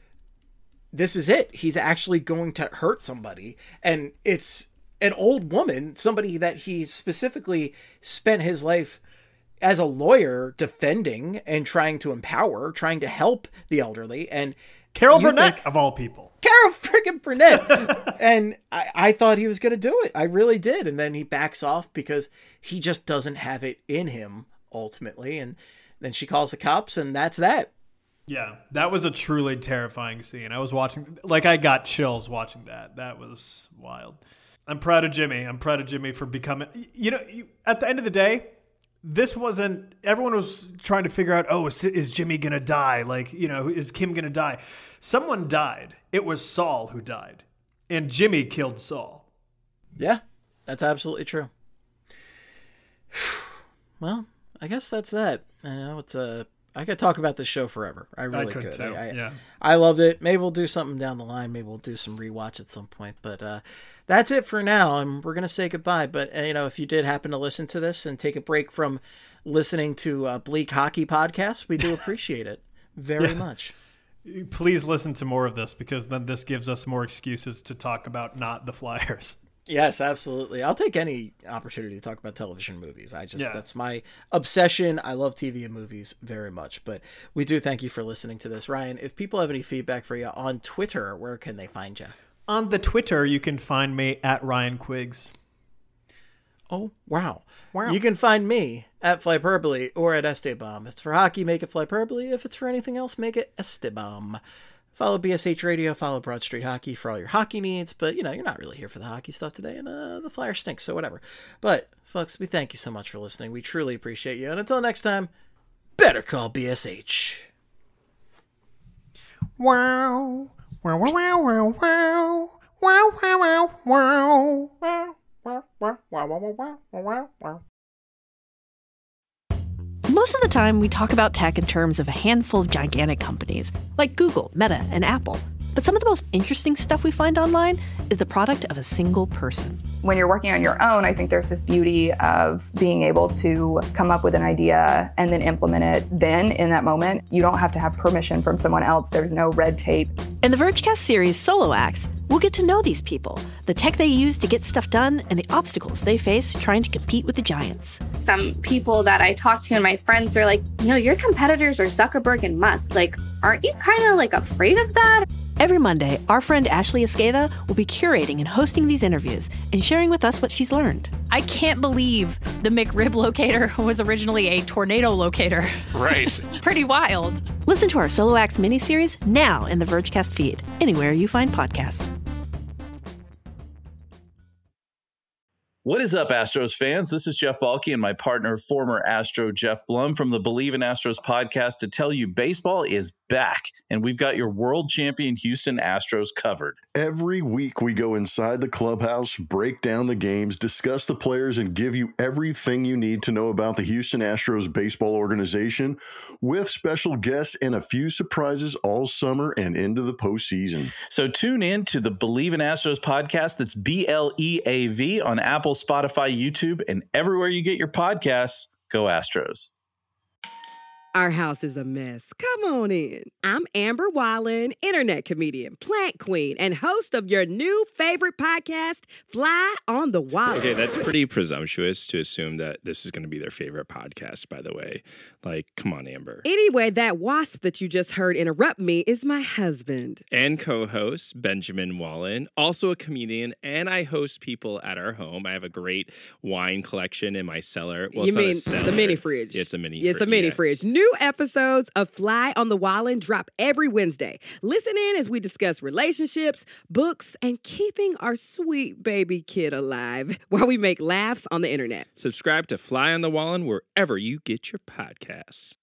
this is it. He's actually going to hurt somebody. And it's an old woman, somebody that he specifically spent his life as a lawyer defending and trying to empower, trying to help the elderly. And Carol Burnett, think, of all people. Carol friggin' Burnett. And I, I thought he was going to do it. I really did. And then he backs off because he just doesn't have it in him ultimately. And then she calls the cops and that's that. Yeah, that was a truly terrifying scene. I was watching, like I got chills watching that. That was wild. I'm proud of Jimmy. I'm proud of Jimmy for becoming, you know, at the end of the day, this wasn't, everyone was trying to figure out, oh, is, is Jimmy going to die? Like, you know, is Kim going to die? Someone died. It was Saul who died. And Jimmy killed Saul. Yeah, that's absolutely true. Well, I guess that's that. I know it's a. I could talk about this show forever. I really I could, could. too. I, I, yeah. I loved it. Maybe we'll do something down the line. Maybe we'll do some rewatch at some point. But uh, that's it for now. And we're gonna say goodbye. But uh, you know, if you did happen to listen to this and take a break from listening to uh, Bleak Hockey Podcast, we do appreciate it very yeah. much. Please listen to more of this, because then this gives us more excuses to talk about not the Flyers. Yes, absolutely. I'll take any opportunity to talk about television movies. I just, yeah. that's my obsession. I love T V and movies very much, but we do thank you for listening to this. Ryan, if people have any feedback for you on Twitter, where can they find you? On the Twitter, you can find me at Ryan Quiggs. Oh, wow. Wow. You can find me at Flyperbole or at Esteban. If it's for hockey, make it Flyperbole. If it's for anything else, make it Esteban. Follow B S H Radio, follow Broad Street Hockey for all your hockey needs. But, you know, you're not really here for the hockey stuff today, and uh, the Flyers stink, so whatever. But, folks, we thank you so much for listening. We truly appreciate you. And until next time, better call B S H. Wow. Wow, wow, wow, wow, wow. Wow, wow, wow, wow. Wow, wow, wow, wow, wow, wow, wow. Most of the time, we talk about tech in terms of a handful of gigantic companies, like Google, Meta, and Apple. But some of the most interesting stuff we find online is the product of a single person. When you're working on your own, I think there's this beauty of being able to come up with an idea and then implement it then in that moment. You don't have to have permission from someone else. There's no red tape. In the Vergecast series Solo Acts, we'll get to know these people, the tech they use to get stuff done, and the obstacles they face trying to compete with the giants. Some people that I talk to and my friends are like, you know, your competitors are Zuckerberg and Musk. Like, aren't you kind of like afraid of that? Every Monday, our friend Ashley Esqueda will be curating and hosting these interviews and sharing with us what she's learned. I can't believe the McRib locator was originally a tornado locator. Right. Pretty wild. Listen to our Solo Acts miniseries now in the Vergecast feed, anywhere you find podcasts. What is up, Astros fans? This is Jeff Balke and my partner, former Astro Jeff Blum from the Believe in Astros podcast to tell you baseball is back, and we've got your world champion Houston Astros covered. Every week we go inside the clubhouse, break down the games, discuss the players, and give you everything you need to know about the Houston Astros baseball organization, with special guests and a few surprises all summer and into the postseason. So tune in to the Believe in Astros podcast. That's B L E A V on Apple, Spotify, YouTube, and everywhere you get your podcasts. Go Astros. Our house is a mess. Come on in. I'm Amber Wallen, internet comedian, plant queen, and host of your new favorite podcast, Fly on the Wallen. Okay, that's pretty presumptuous to assume that this is going to be their favorite podcast, by the way. Like, come on, Amber. Anyway, that wasp that you just heard interrupt me is my husband. And co-host, Benjamin Wallen, also a comedian, and I host people at our home. I have a great wine collection in my cellar. Well, you it's mean not a cellar. the mini fridge? Yeah, it's a mini yeah, fridge. It's a mini yeah. fridge. New episodes of Fly on the Wallen drop every Wednesday. Listen in as we discuss relationships, books, and keeping our sweet baby kid alive while we make laughs on the internet. Subscribe to Fly on the Wallen wherever you get your podcasts.